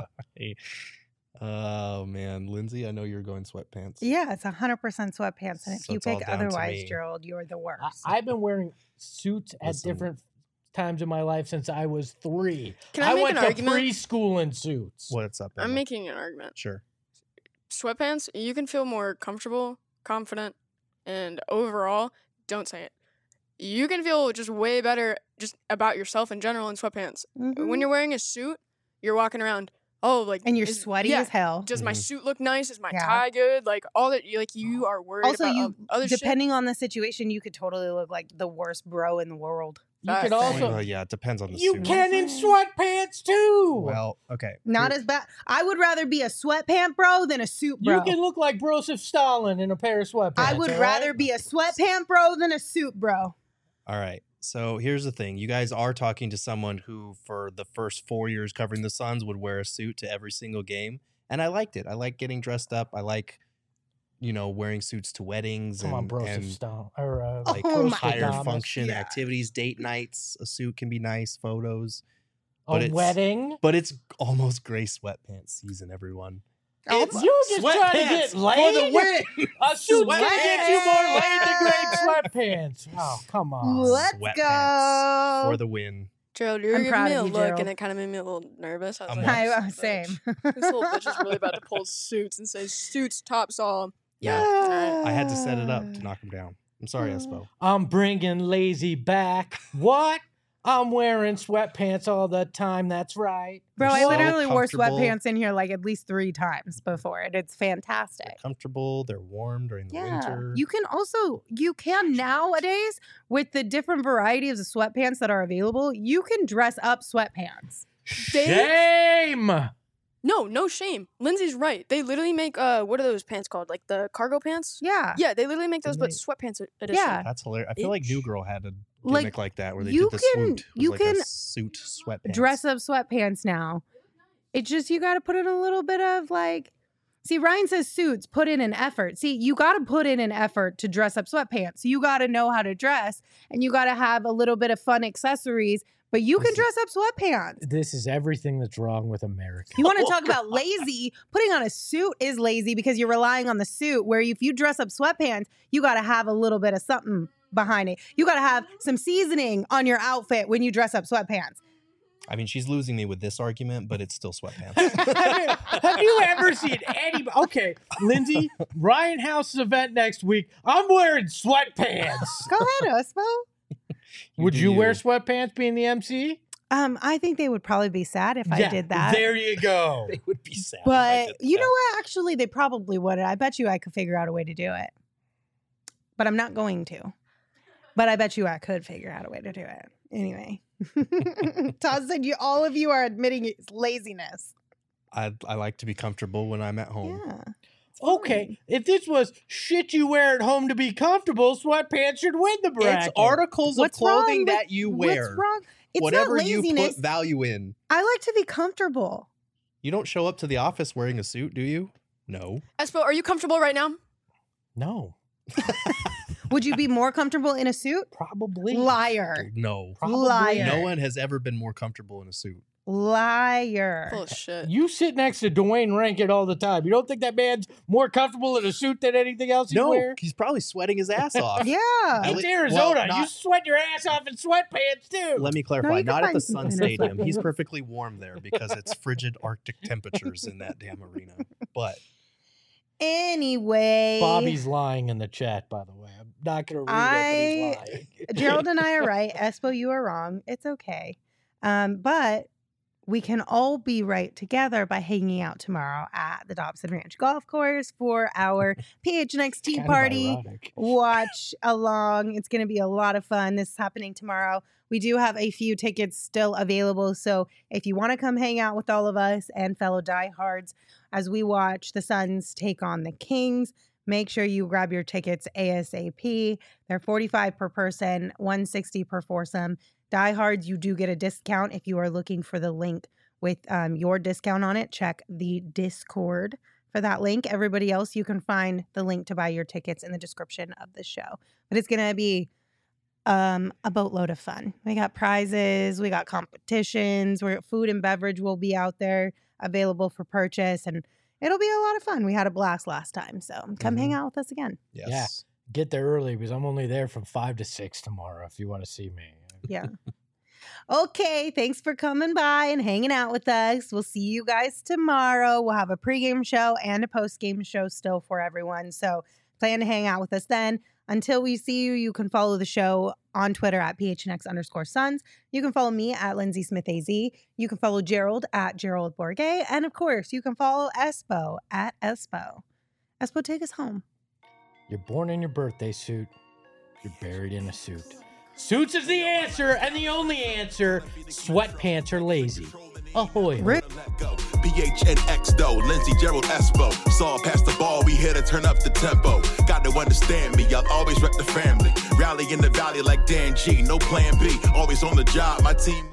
Oh man, Lindsay, I know you're going sweatpants. Yeah, it's 100% sweatpants. And if So you it's all pick down to otherwise, me. Gerald, you're the worst. I've been wearing suits at Listen. different times in my life since I was 3. Can I make went an to argument? preschool in suits. What's up, Emma? I'm making an argument. Sure. Sweatpants, you can feel more comfortable, confident, and overall, don't say it. You can feel just way better just about yourself in general in sweatpants. Mhm. When you're wearing a suit, you're walking around, oh, like and you're is- sweaty yeah, as hell. Does my Mhm. suit look nice? Is my Yeah. tie good? Like all that, like you are worried Also, about you other shit. depending on the situation, you could totally look like the worst bro in the world. You could Facts. also Well, yeah, it depends on the you suit. can in sweatpants too. Well, okay. Not as bad. I would rather be a sweatpant bro than a suit bro. You can look like Broseph Stalin in a pair of sweatpants. I would all rather right? be a sweatpant bro than a suit bro. All right. So here's the thing. You guys are talking to someone who, for the first 4 years covering the Suns, would wear a suit to every single game. And I liked it. I like getting dressed up. I like, wearing suits to weddings Come on, and Broseph Stalin or like Oh my higher goodness. function Yeah. activities, date nights. A suit can be nice, photos. a but it's- wedding. But it's almost gray sweatpants season, everyone. Oh, It's you just trying to get laid for the win. A suit's gonna get you more laid than Sweatpants. great sweatpants. Oh, come on. Let's Sweatpants go. for the win. Gerald, you're I'm giving proud me of a you, look, Gerald. and it kind of made me a little nervous. I was I'm like, I, this same. bitch- This little bitch is really about to pull suits and say suits tops all. Yeah. Alright. I had to set it up to knock him down. I'm sorry, Espo. I'm bringing lazy back. What? I'm wearing sweatpants all the time. That's right. Bro, I They're so literally wore comfortable. sweatpants in here like at least 3 times before it. It's They're fantastic. comfortable. They're warm during the Yeah. winter. You can nowadays with the different varieties of sweatpants that are available, you can dress up sweatpants. Shame. No shame. Lindsay's right. They literally make what are those pants called? Like the cargo pants? Yeah. Yeah, they literally make those, but Didn't sweatpants edition. Yeah. That's hilarious. I feel like Bitch. New Girl had a Like, gimmick like that where they you did the can- swoot. It was you like can a suit sweatpants. Dress up sweatpants now. It's just you got to put in a little bit of like. See, Ryan says suits, put in an effort. See, you got to put in an effort to dress up sweatpants. You got to know how to dress and you got to have a little bit of fun accessories, but you can dress up sweatpants. This is everything that's wrong with America. You want to talk about lazy? Putting on a suit is lazy because you're relying on the suit. Where if you dress up sweatpants, you got to have a little bit of something behind it. You got to have some seasoning on your outfit when you dress up sweatpants. I mean, she's losing me with this argument, but it's still sweatpants. Have you ever seen any? Okay, Lindsay, Ryan House's event next week. I'm wearing sweatpants. Go ahead, Osmo. Would do you wear you. sweatpants being the MC? I think they would probably be sad if I Yeah, did that. There you go. They would be sad. if I But did you that. know what? Actually, they probably would. I bet you I could figure out a way to do it. But I'm not going to. But I bet you I could figure out a way to do it. Anyway. Todd said all of you are admitting it's laziness. I like to be comfortable when I'm at home. Yeah. Okay, if this was shit you wear at home to be comfortable, sweatpants should win the bracket. It's articles What's of clothing wrong with- that you wear. What's wrong? It's Whatever not you laziness. put value in. I like to be comfortable. You don't show up to the office wearing a suit, do you? No. Espo, are you comfortable right now? No, Would you be more comfortable in a suit? probably. Liar. No. Probably. Liar. No one has ever been more comfortable in a suit. Liar. Full of shit. You sit next to Dwayne Rankin all the time. You don't think that man's more comfortable in a suit than anything else he No, wears? he's probably sweating his ass off. Yeah. At It's le- Arizona. well, You not- sweat your ass off in sweatpants too. Let me No, clarify. you can Not at the find Sun some in Stadium. He's sweatpants. perfectly warm there because it's frigid Arctic temperatures in that damn arena. But Anyway. Bobby's lying in the chat, by the way. I'm not going to read it, but he's lying. Gerald and I are right. Espo, you are wrong. It's okay. But we can all be right together by hanging out tomorrow at the Dobson Ranch Golf Course for our PHNX Tea Kind of Party ironic. watch along. It's going to be a lot of fun. This is happening tomorrow. We do have a few tickets still available. So if you want to come hang out with all of us and fellow diehards as we watch the Suns take on the Kings, make sure you grab your tickets ASAP. They're $45 per person, $160 per foursome. Diehards, you do get a discount if you are looking for the link with your discount on it. Check the Discord for that link. Everybody else, you can find the link to buy your tickets in the description of the show. But it's going to be a boatload of fun. We got prizes, we got competitions, food and beverage will be out there available for purchase, and it'll be a lot of fun. We had a blast last time, so come hang out with us again. Yes. Yeah. Get there early because I'm only there from 5 to 6 tomorrow if you want to see me. Yeah. Okay, thanks for coming by and hanging out with us. We'll see you guys tomorrow. We'll have a pregame show and a postgame show still for everyone. So plan to hang out with us then. Until we see you, you can follow the show on Twitter at PHNX_Suns. You can follow me at Lindsay Smith AZ. You can follow Gerald at Gerald Bourget. And of course, you can follow Espo at Espo. Espo, take us home. You're born in your birthday suit. You're buried in a suit. Suits is the answer and the only answer. Sweatpants are lazy. Ahoy. PHNX though, Lindsay, Gerald, Espo. Saw past the ball, we here to turn up the tempo. Got to understand me, I'll always rep the family. Rally in the valley like Dan G, no plan B. Always on the job, my team.